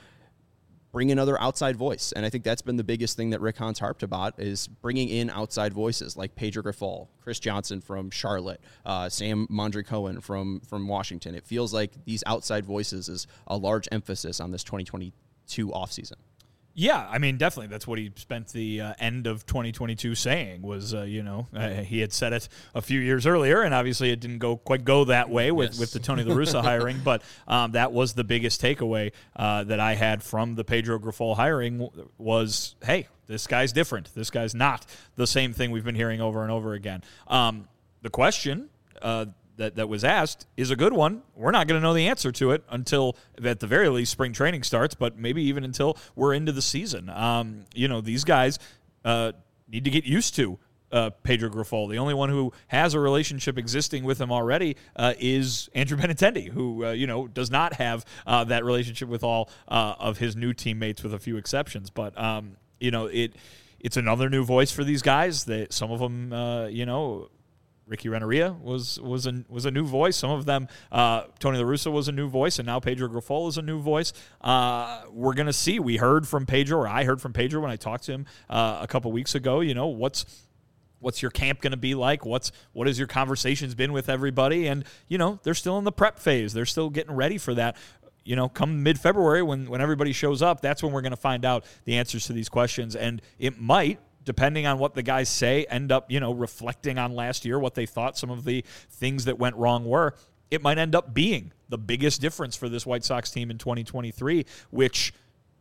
A: bring another outside voice. And I think that's been the biggest thing that Rick Hahn's harped about is bringing in outside voices like Pedro Grifol, Chris Johnson from Charlotte, uh, Sam Mondry Cohen from, from Washington. It feels like these outside voices is a large emphasis on this twenty twenty-two offseason.
B: Yeah, I mean, definitely. That's what he spent the uh, end of twenty twenty-two saying was, uh, you know, uh, he had said it a few years earlier, and obviously it didn't go quite go that way with,
C: Yes.
B: with the Tony La Russa hiring, but um, that was the biggest takeaway uh, that I had from the Pedro Grifol hiring was, hey, this guy's different. This guy's not the same thing we've been hearing over and over again. Um, the question uh, that, that was asked is a good one. We're not going to know the answer to it until, at the very least, spring training starts, but maybe even until we're into the season. Um, you know, these guys uh, need to get used to uh, Pedro Grifol. The only one who has a relationship existing with him already uh, is Andrew Benintendi, who uh, you know does not have uh, that relationship with all uh, of his new teammates, with a few exceptions. But um, you know, it it's another new voice for these guys. That some of them, uh, you know. Ricky Renneria was was a was a new voice. Some of them, uh, Tony La Russa was a new voice, and now Pedro Grifol is a new voice. Uh, we're gonna see. We heard from Pedro, or I heard from Pedro when I talked to him uh, a couple weeks ago. You know, what's what's your camp going to be like? What's what has your conversations been with everybody? And you know, they're still in the prep phase. They're still getting ready for that. You know, come mid-February when when everybody shows up, that's when we're going to find out the answers to these questions, and it might, depending on what the guys say, end up, you know, reflecting on last year, what they thought some of the things that went wrong were. It might end up being the biggest difference for this White Sox team in twenty twenty-three, which,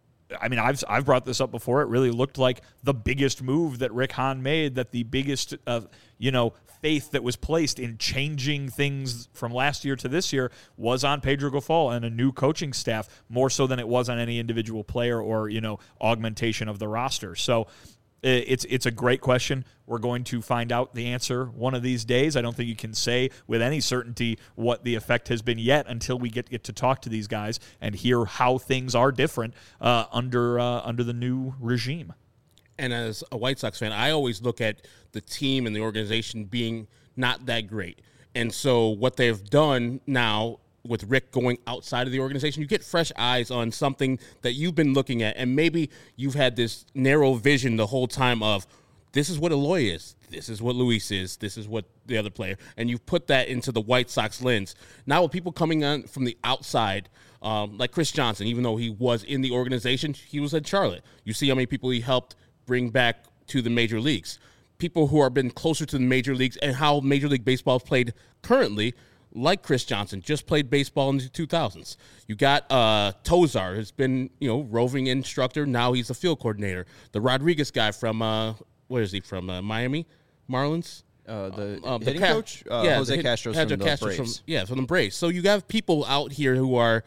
B: I mean, I've I've brought this up before. It really looked like the biggest move that Rick Hahn made, that the biggest, uh, you know, faith that was placed in changing things from last year to this year was on Pedro Grifol and a new coaching staff, more so than it was on any individual player or, you know, augmentation of the roster. So It's it's a great question. We're going to find out the answer one of these days. I don't think you can say with any certainty what the effect has been yet until we get, get to talk to these guys and hear how things are different uh, under uh, under the new regime.
C: And as a White Sox fan, I always look at the team and the organization being not that great. And so what they've done now with Rick going outside of the organization, you get fresh eyes on something that you've been looking at, and maybe you've had this narrow vision the whole time of, this is what Eloy is, this is what Luis is, this is what the other player, and you've put that into the White Sox lens. Now with people coming on from the outside, um, like Chris Johnson, even though he was in the organization, he was at Charlotte. You see how many people he helped bring back to the major leagues. People who have been closer to the major leagues and how Major League Baseball is played currently, like Chris Johnson, just played baseball in the two thousands. You got uh, Tozar, who's been, you know, roving instructor. Now he's a field coordinator. The Rodriguez guy from, uh, where is he from, uh, Miami Marlins?
A: Uh, the
C: uh,
A: hitting
C: the Ca-
A: coach? Uh,
C: yeah,
A: Jose
C: hit,
A: Castro
C: Jose
A: from the
C: Castro's
A: Braves.
C: From, yeah, from the Braves. So you have people out here who are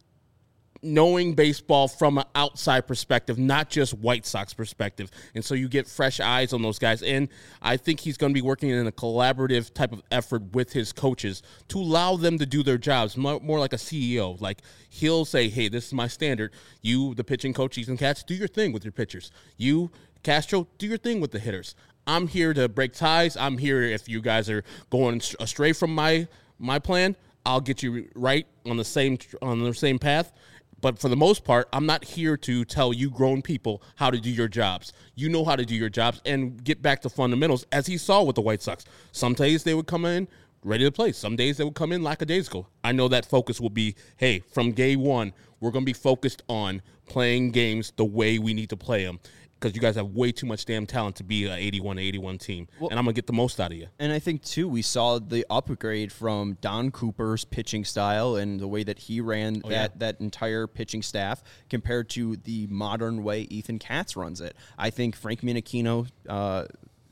C: knowing baseball from an outside perspective, not just White Sox perspective. And so you get fresh eyes on those guys. And I think he's going to be working in a collaborative type of effort with his coaches to allow them to do their jobs, more, more like a C E O. Like, he'll say, hey, this is my standard. You, the pitching coach, Ethan Katz, do your thing with your pitchers. You, Castro, do your thing with the hitters. I'm here to break ties. I'm here if you guys are going astray from my my plan. I'll get you right on the same on the same path. But for the most part, I'm not here to tell you grown people how to do your jobs. You know how to do your jobs and get back to fundamentals, as he saw with the White Sox. Some days they would come in ready to play. Some days they would come in lackadaisical. I know that focus will be, hey, from day one, we're going to be focused on playing games the way we need to play them, because you guys have way too much damn talent to be an eighty-one eighty-one team, well, and I'm going to get the most out of you.
A: And I think, too, we saw the upgrade from Don Cooper's pitching style and the way that he ran
C: oh,
A: that,
C: yeah.
A: that entire pitching staff compared to the modern way Ethan Katz runs it. I think Frank Minachino uh,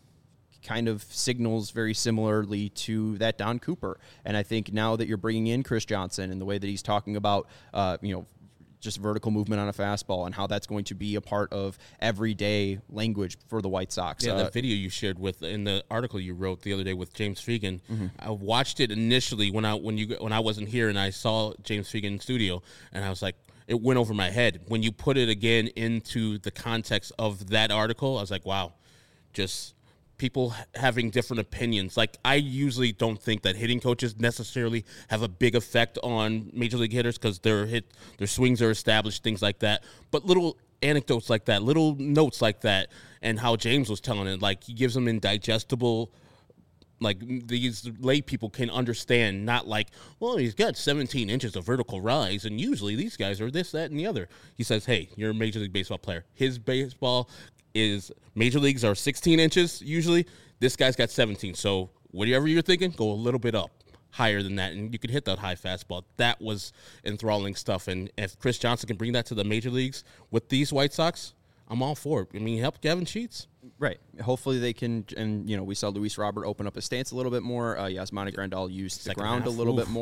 A: kind of signals very similarly to that Don Cooper. And I think now that you're bringing in Chris Johnson and the way that he's talking about, uh, you know, just vertical movement on a fastball and how that's going to be a part of everyday language for the White Sox.
C: Yeah,
A: uh,
C: that video you shared with in the article you wrote the other day with James Fegan.
A: Mm-hmm.
C: I watched it initially when I when you when I wasn't here, and I saw James Fegan in studio, and I was like, it went over my head. When you put it again into the context of that article, I was like, wow, just people having different opinions. Like, I usually don't think that hitting coaches necessarily have a big effect on major league hitters because their hit, their swings are established, things like that. But little anecdotes like that, little notes like that, and how James was telling it, like, he gives them indigestible, like, these lay people can understand, not like, well, he's got seventeen inches of vertical rise, and usually these guys are this, that, and the other. He says, hey, you're a Major League Baseball player. His baseball is, major leagues are sixteen inches usually. This guy's got seventeen. So whatever you're thinking, go a little bit up, higher than that, and you could hit that high fastball. That was enthralling stuff. And if Chris Johnson can bring that to the major leagues with these White Sox, I'm all for it. I mean, he helped Gavin Sheets.
A: Right. Hopefully they can, and, you know, we saw Luis Robert open up his stance a little bit more. Uh, Yasmani Grandal used the
C: Second
A: ground
C: half,
A: a little
C: oof.
A: bit more.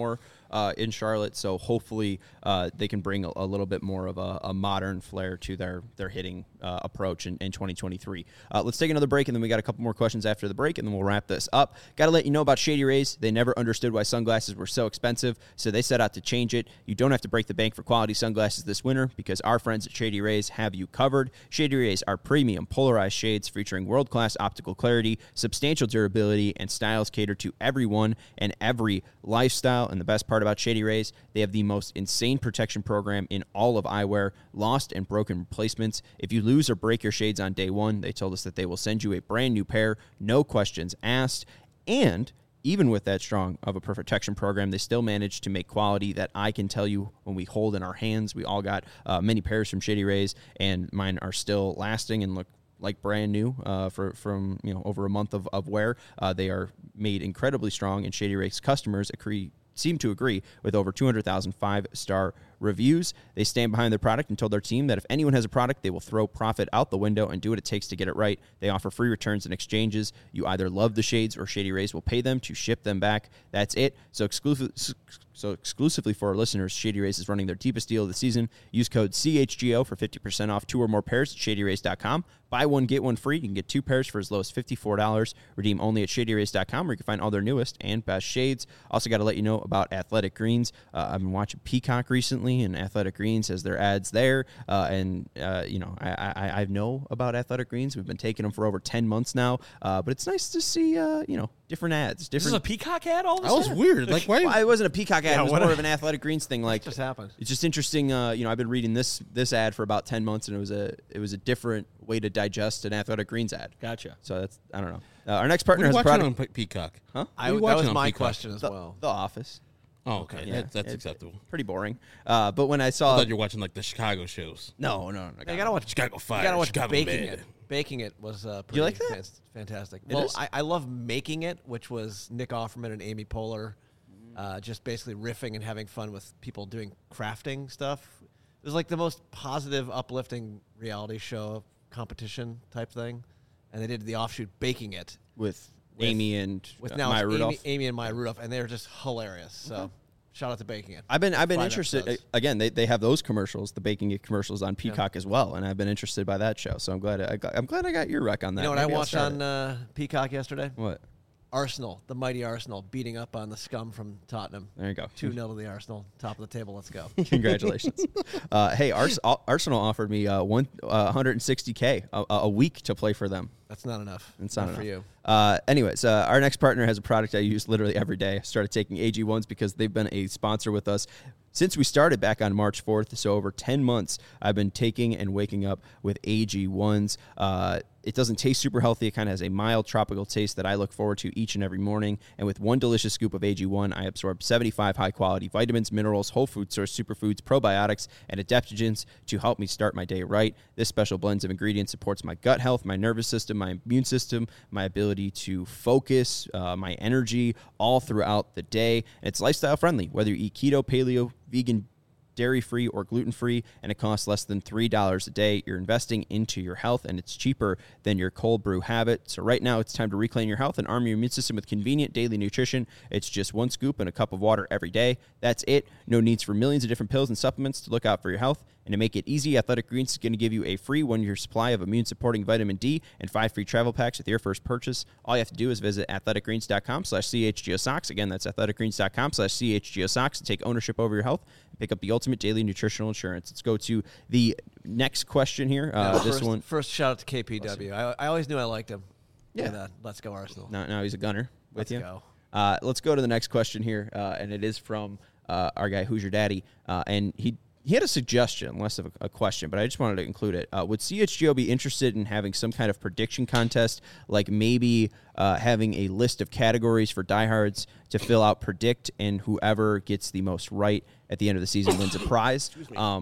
A: uh, in Charlotte. So hopefully uh, they can bring a, a little bit more of a, a modern flair to their their hitting uh, approach in, in twenty twenty-three. Uh, let's take another break, and then we got a couple more questions after the break, and then we'll wrap this up. Got to let you know about Shady Rays. They never understood why sunglasses were so expensive, so they set out to change it. You don't have to break the bank for quality sunglasses this winter because our friends at Shady Rays have you covered. Shady Rays are premium polarized shades featuring world-class optical clarity, substantial durability, and styles cater to everyone and every lifestyle. And the best part about Shady Rays, they have the most insane protection program in all of eyewear, lost and broken replacements. If you lose or break your shades on day one, they told us that they will send you a brand new pair, no questions asked. And even with that strong of a protection program, they still manage to make quality that I can tell you when we hold in our hands. We all got uh, many pairs from Shady Rays, and mine are still lasting and look like brand new uh, for from you know over a month of, of wear. Uh, they are made incredibly strong, and Shady Rays customers agree seem to agree with over two hundred thousand five-star reviews. They stand behind their product and told their team that if anyone has a product, they will throw profit out the window and do what it takes to get it right. They offer free returns and exchanges. You either love the shades or Shady Rays will pay them to ship them back. That's it. So exclusive, so exclusively for our listeners, Shady Rays is running their deepest deal of the season. Use code C H G O for fifty percent off two or more pairs at shady rays dot com. Buy one, get one free. You can get two pairs for as low as fifty-four dollars. Redeem only at shady rays dot com where you can find all their newest and best shades. Also got to let you know about Athletic Greens. Uh, I've been watching Peacock recently, and Athletic Greens has their ads there. Uh, and, uh, you know, I, I, I know about Athletic Greens. We've been taking them for over ten months now. Uh, but it's nice to see, uh, you know, different ads. Different.
B: This is a Peacock ad all of a
C: That was
B: sudden?
C: weird. Like, why?
A: Well, it wasn't a Peacock ad.
B: Yeah,
A: it was
B: what
A: more
B: a-
A: of an Athletic Greens thing. Like,
D: just happened.
A: It's just interesting. Uh, you know, I've been reading this this ad for about ten months, and it was a it was a different way to digest an Athletic Greens ad.
B: Gotcha.
A: So that's I don't know. Uh, our next
C: What
A: partner
C: are you
A: has a
C: watching
A: product.
C: on Pe- Peacock?
A: Huh?
D: I,
C: What are you
D: that was
C: watching on
D: my
C: Peacock?
D: question as
A: The,
D: well.
A: the Office.
C: Oh, okay.
A: Yeah,
C: that, that's
A: it's
C: acceptable.
A: Pretty boring. Uh, but when I
C: I
A: saw,
C: thought you were watching like the Chicago shows.
A: no, no, no,
D: You gotta watch.
C: Chicago Fire.
D: You gotta watch
C: Chicago
D: baking
C: Med.
D: it. Baking it was uh, pretty
A: you like that?
D: fan- fantastic.
A: It
D: well,
A: is?
D: I, I love Making It, which was Nick Offerman and Amy Poehler, uh, just basically riffing and having fun with people doing crafting stuff. It was like the most positive, uplifting reality show competition type thing, and they did the offshoot Baking It
A: with,
D: with-
A: Amy and
D: with
A: uh,
D: now
A: Maya
D: it's
A: Rudolph.
D: Amy, Amy and Maya Rudolph, and they're just hilarious. So, shout out to Baking It.
A: I've been I've been
D: Five
A: interested
D: episodes.
A: again. They, they have those commercials, the baking it commercials on Peacock as well, and I've been interested by that show. So I'm glad I got, I'm glad I got your rec on that.
D: You know what
A: Maybe
D: I
A: I'll
D: watched
A: start
D: on
A: it.
D: uh, Peacock yesterday?
A: What?
D: Arsenal, the mighty Arsenal, beating up on the scum from Tottenham.
A: There you go.
D: two nil to the Arsenal. Top of the table. Let's go.
A: Congratulations. uh, hey, Ars- Arsenal offered me uh, one uh, one hundred sixty K a, a week to play for them.
D: That's not enough.
A: It's not,
D: for
A: enough.
D: you.
A: Uh, anyways, uh, our next partner has a product I use literally every day. I started taking A G ones because they've been a sponsor with us since we started back on March fourth. So over ten months, I've been taking and waking up with A G ones. Uh, it doesn't taste super healthy. It kind of has a mild tropical taste that I look forward to each and every morning. And with one delicious scoop of A G one, I absorb seventy-five high-quality vitamins, minerals, whole food source superfoods, probiotics, and adaptogens to help me start my day right. This special blend of ingredients supports my gut health, my nervous system, my immune system, my ability to focus, uh, my energy all throughout the day. And it's lifestyle friendly, whether you eat keto, paleo, vegan, dairy-free, or gluten-free, and it costs less than three dollars a day. You're investing into your health, and it's cheaper than your cold brew habit. So right now, it's time to reclaim your health and arm your immune system with convenient daily nutrition. It's just one scoop and a cup of water every day. That's it. No needs for millions of different pills and supplements to look out for your health. And to make it easy, Athletic Greens is going to give you a free one-year supply of immune-supporting vitamin D and five free travel packs with your first purchase. All you have to do is visit athleticgreens.com slash chgosocks. Again, that's athleticgreens.com slash chgosocks to take ownership over your health and pick up the ultimate daily nutritional insurance. Let's go to the next question here. Uh,
D: Yeah,
A: this
D: first,
A: one.
D: First, shout out to K P W. I, I always knew I liked him.
A: Yeah.
D: And, uh, let's go Arsenal.
A: Now, now he's a gunner with
D: Let's
A: you.
D: go.
A: Uh, let's go to the next question here, uh, and it is from uh, our guy, Who's Your Daddy? Uh, and he he had a suggestion, less of a, a question, but I just wanted to include it. Uh, would C H G O be interested in having some kind of prediction contest, like maybe uh, having a list of categories for diehards to fill out, predict, and whoever gets the most right at the end of the season wins a prize? Um,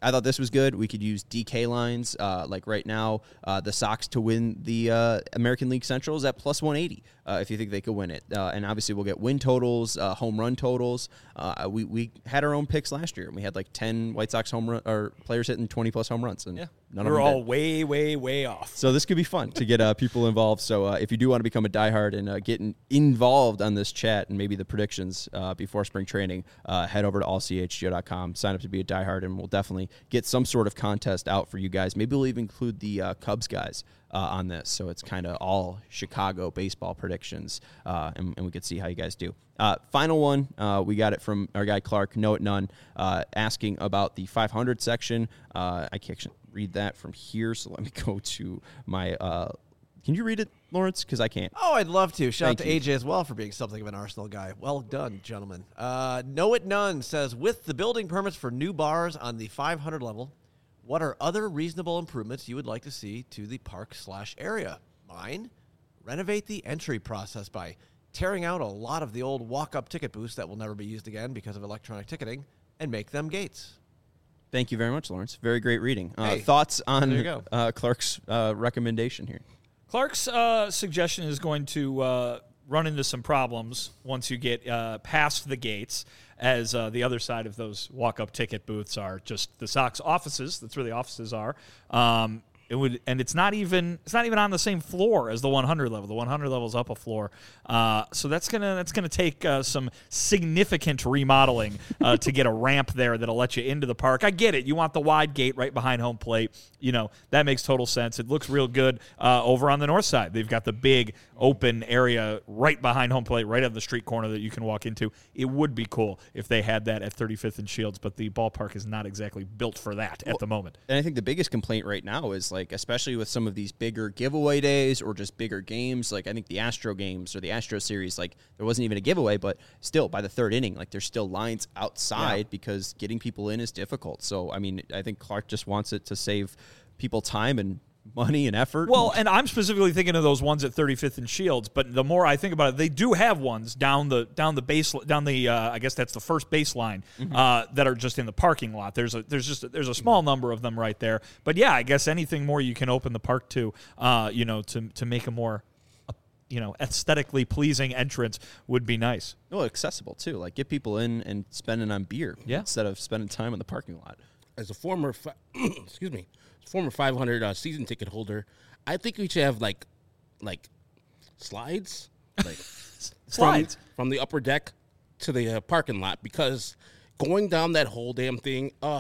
A: I thought this was good. We could use D K lines. Uh, like right now, uh, the Sox to win the uh, American League Central is at plus one eighty uh, if you think they could win it. Uh, and obviously we'll get win totals, uh, home run totals. Uh, we, we had our own picks last year, and we had like ten White Sox home run or players hitting twenty-plus home runs. And
B: Yeah.
A: none
B: we
A: of
B: were
A: them
B: all
A: did.
B: way, way, way off.
A: So this could be fun to get uh, people involved. So uh, if you do want to become a diehard and uh, get in, involved on this chat and maybe the predictions uh, before spring training, uh, head over to all c h g o dot com, sign up to be a diehard, and we'll definitely get some sort of contest out for you guys. Maybe we'll even include the uh, Cubs guys uh, on this, so it's kind of all Chicago baseball predictions, uh, and, and we could see how you guys do. Uh, final one, uh, we got it from our guy Clark, Know It None, uh, asking about the five hundred section. Uh, I can't read that from here, so let me go to my uh, can you read it, Lawrence? Because I can't.
D: Oh, I'd love to. Shout
A: Thank
D: out to
A: you.
D: A J as well for being something of an Arsenal guy. Well done, gentlemen. Uh, Know It None says, with the building permits for new bars on the five hundred level, what are other reasonable improvements you would like to see to the park slash area? Mine, renovate the entry process by tearing out a lot of the old walk-up ticket booths that will never be used again because of electronic ticketing and make them gates.
A: Thank you very much, Lawrence. Very great reading. Uh,
D: Hey,
A: thoughts on
D: there you go.
A: uh, Clark's uh, recommendation here?
B: Clark's uh, suggestion is going to uh, run into some problems once you get uh, past the gates, as uh, the other side of those walk-up ticket booths are just the Sox offices. That's where the offices are. Um, it would, and it's not even it's not even on the same floor as the one hundred level. The one hundred level is up a floor, uh, so that's gonna that's gonna take uh, some significant remodeling uh, to get a ramp there that'll let you into the park. I get it. You want the wide gate right behind home plate. You know that makes total sense. It looks real good uh, over on the north side. They've got the big open area right behind home plate, right on the street corner that you can walk into. It would be cool if they had that at thirty-fifth and Shields, but the ballpark is not exactly built for that at the moment.
A: And I think the biggest complaint right now is, like, especially with some of these bigger giveaway days or just bigger games, like I think the Astro games or the Astro series, like there wasn't even a giveaway, but still by the third inning, like there's still lines outside
B: Yeah.
A: because getting people in is difficult. So, I mean, I think Clark just wants it to save people time and money and effort.
B: Well, and I'm specifically thinking of those ones at thirty-fifth and Shields, but the more I think about it, they do have ones down the down the base down the uh, I guess that's the first baseline
A: Mm-hmm.
B: uh, that are just in the parking lot. There's a there's just a, there's a small number of them right there. But yeah, I guess anything more you can open the park to, uh, you know, to to make a more uh, you know aesthetically pleasing entrance would be nice.
A: well, accessible too. Like get people in and spending on beer
B: Yeah.
A: instead of spending time in the parking lot.
C: As a former, fi- excuse me, former five hundred uh, season ticket holder, I think we should have like, like, slides, like
B: Slides.
C: from, from the upper deck to the uh, parking lot, because going down that whole damn thing, ugh,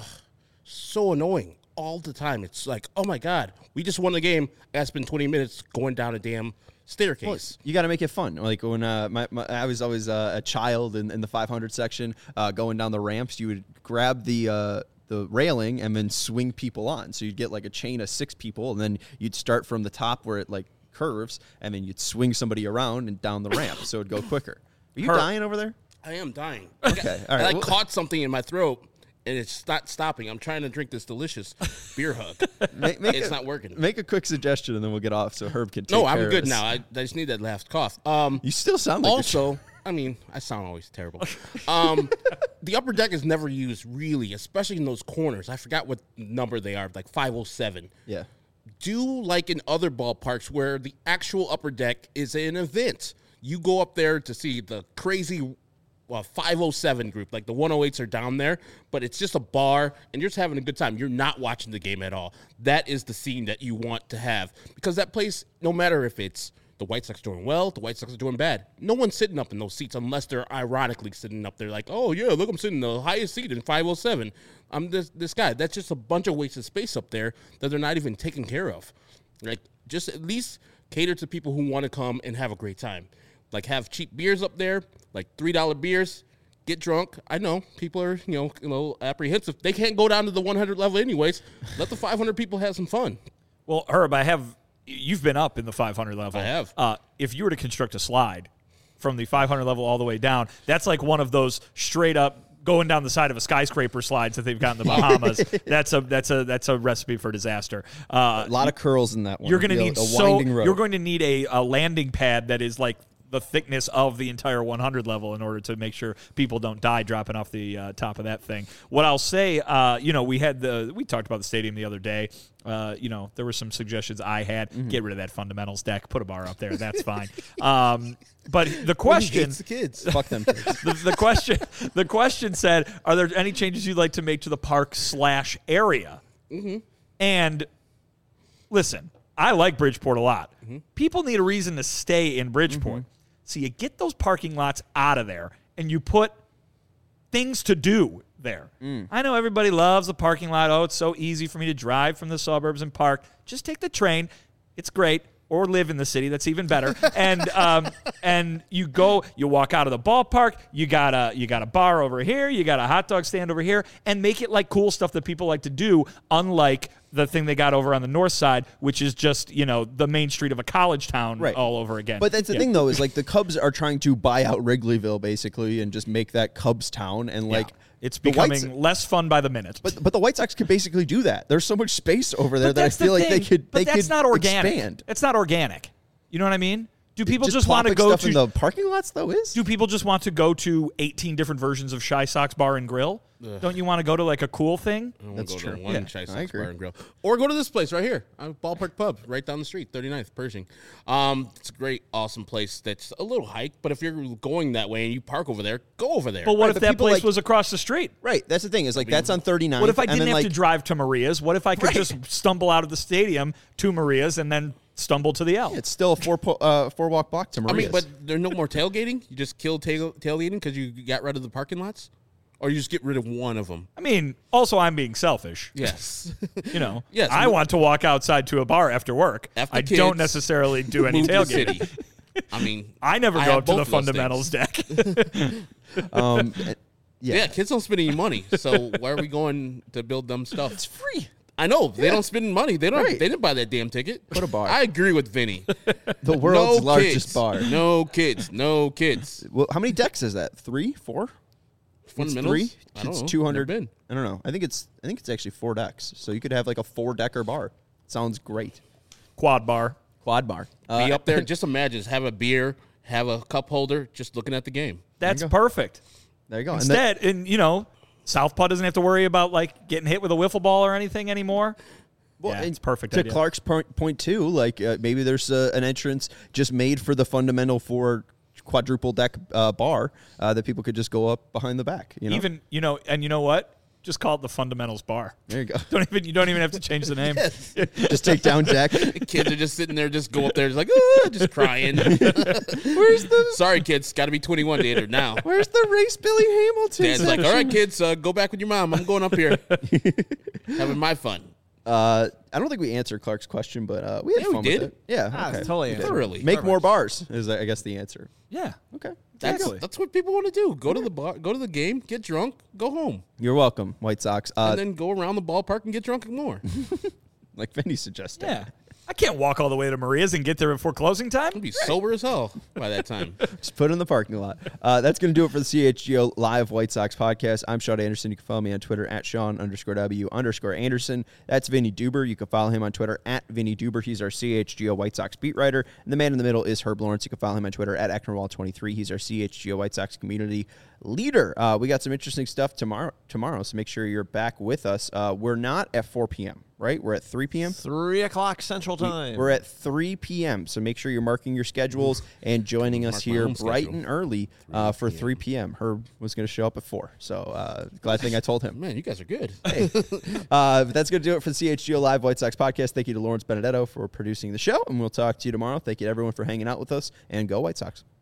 C: so annoying all the time. It's like, oh my god, we just won the game. I gotta spend twenty minutes going down a damn staircase.
A: You got to make it fun. Like when uh, my, my, I was always uh, a child in, in the five hundred section, uh, going down the ramps, you would grab the uh, the railing and then swing people on. So you'd get like a chain of six people, and then you'd start from the top where it like curves, and then you'd swing somebody around and down the ramp, so it'd go quicker. Are you
B: Her-
A: dying over there?
C: I am dying.
A: Okay, all
C: I
A: right.
C: like
A: Well-
C: caught something in my throat, and it's not stopping. I'm trying to drink this delicious beer hug.
A: Make, make
C: It's
A: a,
C: not working.
A: Make a quick suggestion, and then we'll get off so Herb can take
C: No,
A: care
C: I'm
A: of
C: good
A: this.
C: now. I, I just need that last cough. Um,
A: You still sound like you're
C: also, I mean, I sound always terrible. Um, the upper deck is never used, really, especially in those corners. I forgot what number they are, like five oh seven.
A: Yeah.
C: Do like in other ballparks where the actual upper deck is an event. You go up there to see the crazy well, five oh seven group, like the one oh eights are down there, but it's just a bar and you're just having a good time. You're not watching the game at all. That is the scene that you want to have, because that place, no matter if it's the White Sox doing well, the White Sox are doing bad, no one's sitting up in those seats unless they're ironically sitting up there like, oh yeah, look, I'm sitting in the highest seat in five oh seven. I'm this this guy. That's just a bunch of wasted space up there that they're not even taking care of. Like, just at least cater to people who want to come and have a great time. Like, have cheap beers up there, like three dollar beers, get drunk. I know people are, you know, a little apprehensive. They can't go down to the one hundred level anyways. Let the five hundred people have some fun.
B: Well, Herb, I have. You've been up in the five hundred level.
C: I have.
B: Uh, if you were to construct a slide from the five hundred level all the way down, that's like one of those straight up going down the side of a skyscraper slides that they've got in the Bahamas. that's a that's a that's a recipe for disaster. Uh,
A: A lot of curls in that one.
B: you're going to
A: You know,
B: need
A: a
B: so
A: winding road.
B: you're going to need a, a landing pad that is like the thickness of the entire one hundred level in order to make sure people don't die dropping off the uh, top of that thing. What I'll say, uh, you know, we had the we talked about the stadium the other day. Uh, you know, there were some suggestions I had. Mm-hmm. Get rid of that fundamentals deck. Put a bar up there. That's fine. Um, but the question,
C: the kids,
A: fuck them kids.
B: The, the question, the question said, are there any changes you'd like to make to the park slash area?
C: Mm-hmm.
B: And listen, I like Bridgeport a lot.
C: Mm-hmm.
B: People need a reason to stay in Bridgeport. Mm-hmm. So you get those parking lots out of there and you put things to do there. Mm. I know everybody loves the parking lot. Oh, it's so easy for me to drive from the suburbs and park. Just take the train. It's great. Or live in the city. That's even better. and um, and you go, you walk out of the ballpark. You got a you got a bar over here. You got a hot dog stand over here, and make it like cool stuff that people like to do. Unlike the thing they got over on the north side, which is just you know the main street of a college town
A: right.
B: all over again.
A: But that's the
B: yeah.
A: thing though, is like the Cubs are trying to buy out Wrigleyville basically and just make that Cubs town, and like.
B: Yeah. It's becoming
A: White,
B: less fun by the minute.
A: But but the White Sox could basically do that. There's so much space over there
B: but
A: that I feel
B: the
A: like they could
B: but
A: they
B: that's
A: could
B: not organic.
A: expand.
B: It's not organic. You know what I mean? Do people just,
A: just
B: want to go
A: stuff
B: to
A: in the parking lots though? Is
B: do people just want to go to eighteen different versions of Shy Sox Bar and Grill? Ugh. Don't you want to go to like a cool thing?
C: I
A: That's
C: go
A: true.
C: To one
A: Yeah,
C: Shy
A: I
C: Sox
A: agree.
C: Bar and Grill, or go to this place right here, uh, Ballpark Pub, right down the street, thirty-ninth Pershing. Um, it's a great, awesome place. That's a little hike, but if you're going that way and you park over there, go over there.
B: But what
A: Right,
B: if
A: but
B: that
A: people
B: place
A: like-
B: was across the street?
A: right. That's the thing is like that's on thirty-nine.
B: What if I
A: and
B: didn't
A: then,
B: have
A: like,
B: to drive to Maria's? What if I could
A: Right.
B: just stumble out of the stadium to Maria's and then stumble to the L?
A: It's still a four po- uh, four walk block to
C: I
A: Maria's.
C: mean, but there's no more tailgating. You just kill tail tailgating because you got rid of the parking lots, or you just get rid of one of them.
B: I mean, also I'm being selfish.
C: Yes.
B: You know,
C: Yes.
B: I want to walk outside to a bar after work.
C: After
B: I
C: kids,
B: don't necessarily do any
C: Move to the
B: tailgating.
C: city. I mean,
B: I never
C: I
B: go
C: have
B: to the
C: both of those
B: fundamentals
C: things.
B: deck.
A: um, yeah.
C: Yeah, kids don't spend any money, so why are we going to build dumb stuff?
A: it's free.
C: I know they
A: Yeah.
C: don't spend money. They don't.
A: Right.
C: They didn't buy that damn ticket.
A: Put a bar.
C: I agree with Vinny.
A: The world's
C: no
A: largest
C: kids.
A: bar.
C: No kids. No kids.
A: Well, how many decks is that? Three, four? It's
C: Fundamentals?
A: three.
C: I don't
A: It's
C: know.
A: two hundred.
C: Never been.
A: I don't know. I think it's I think it's actually four decks. So you could have like a four decker bar. Sounds great.
B: Quad bar.
A: Quad bar.
C: Be
A: Uh,
C: up there. Just imagine. Just have a beer. Have a cup holder. Just looking at the game.
B: That's
A: go.
B: perfect.
A: There you go. And then-
B: Instead, and you know, Southpaw doesn't have to worry about like getting hit with a wiffle ball or anything anymore.
A: Well,
B: Yeah,
A: and
B: it's perfect
A: To
B: idea.
A: Clark's point, point too, like uh, maybe there's uh, an entrance just made for the fundamental for quadruple deck uh, bar uh, that people could just go up behind the back. You know,
B: Even you know, and you know what? Just call it the Fundamentals Bar.
A: there you go.
B: Don't even you don't even have to change the name.
A: Just take down deck.
C: The kids are just sitting there, just go up there, just like, ah, just crying.
A: Where's the
C: Sorry, kids. Got to be twenty-one to enter now.
A: Where's the race Billy Hamilton?
C: Dad's like, all right, kids, uh, go back with your mom. I'm going up here, having my fun.
A: Uh, I don't think we answered Clark's question, but uh, we had
C: Yeah, we
A: fun
C: did.
A: with it. Yeah,
D: Ah,
A: okay.
D: totally
A: We did.
C: Thoroughly.
A: Make
D: Perfect.
A: more bars is I guess the answer.
B: Yeah.
A: Okay.
C: That's
B: Exactly.
C: that's what people want to do. Go to the bar, go to the game, get drunk, go home,
A: You're welcome, White Sox. Uh,
C: and then go around the ballpark and get drunk more.
A: like Vinny suggested.
B: Yeah. I can't walk all the way to Maria's and get there before closing time.
C: I'll be sober as hell by that time.
A: Just put it in the parking lot. Uh, that's going to do it for the C H G O Live White Sox podcast. I'm Sean Anderson. You can follow me on Twitter at Sean underscore W underscore Anderson. That's Vinny Duber. You can follow him on Twitter at Vinny Duber. He's our C H G O White Sox beat writer. And the man in the middle is Herb Lawrence. You can follow him on Twitter at Ecknerwall twenty-three. He's our C H G O White Sox community leader. Uh, we got some interesting stuff tomorrow, tomorrow, so make sure you're back with us. Uh, we're not at four p.m., right? We're at three p.m.?
D: Three o'clock Central Time.
A: We're at three p.m., so make sure you're marking your schedules and joining us
C: Mark my
A: here
C: own
A: bright
C: schedule.
A: and early uh, for three p.m. Herb was going to show up at four, so uh, glad thing I told him.
C: Man, you guys are good.
A: Uh, but that's going to do it for the C H G O Live White Sox podcast. Thank you to Lawrence Benedetto for producing the show, and we'll talk to you tomorrow. Thank you to everyone for hanging out with us, and go White Sox.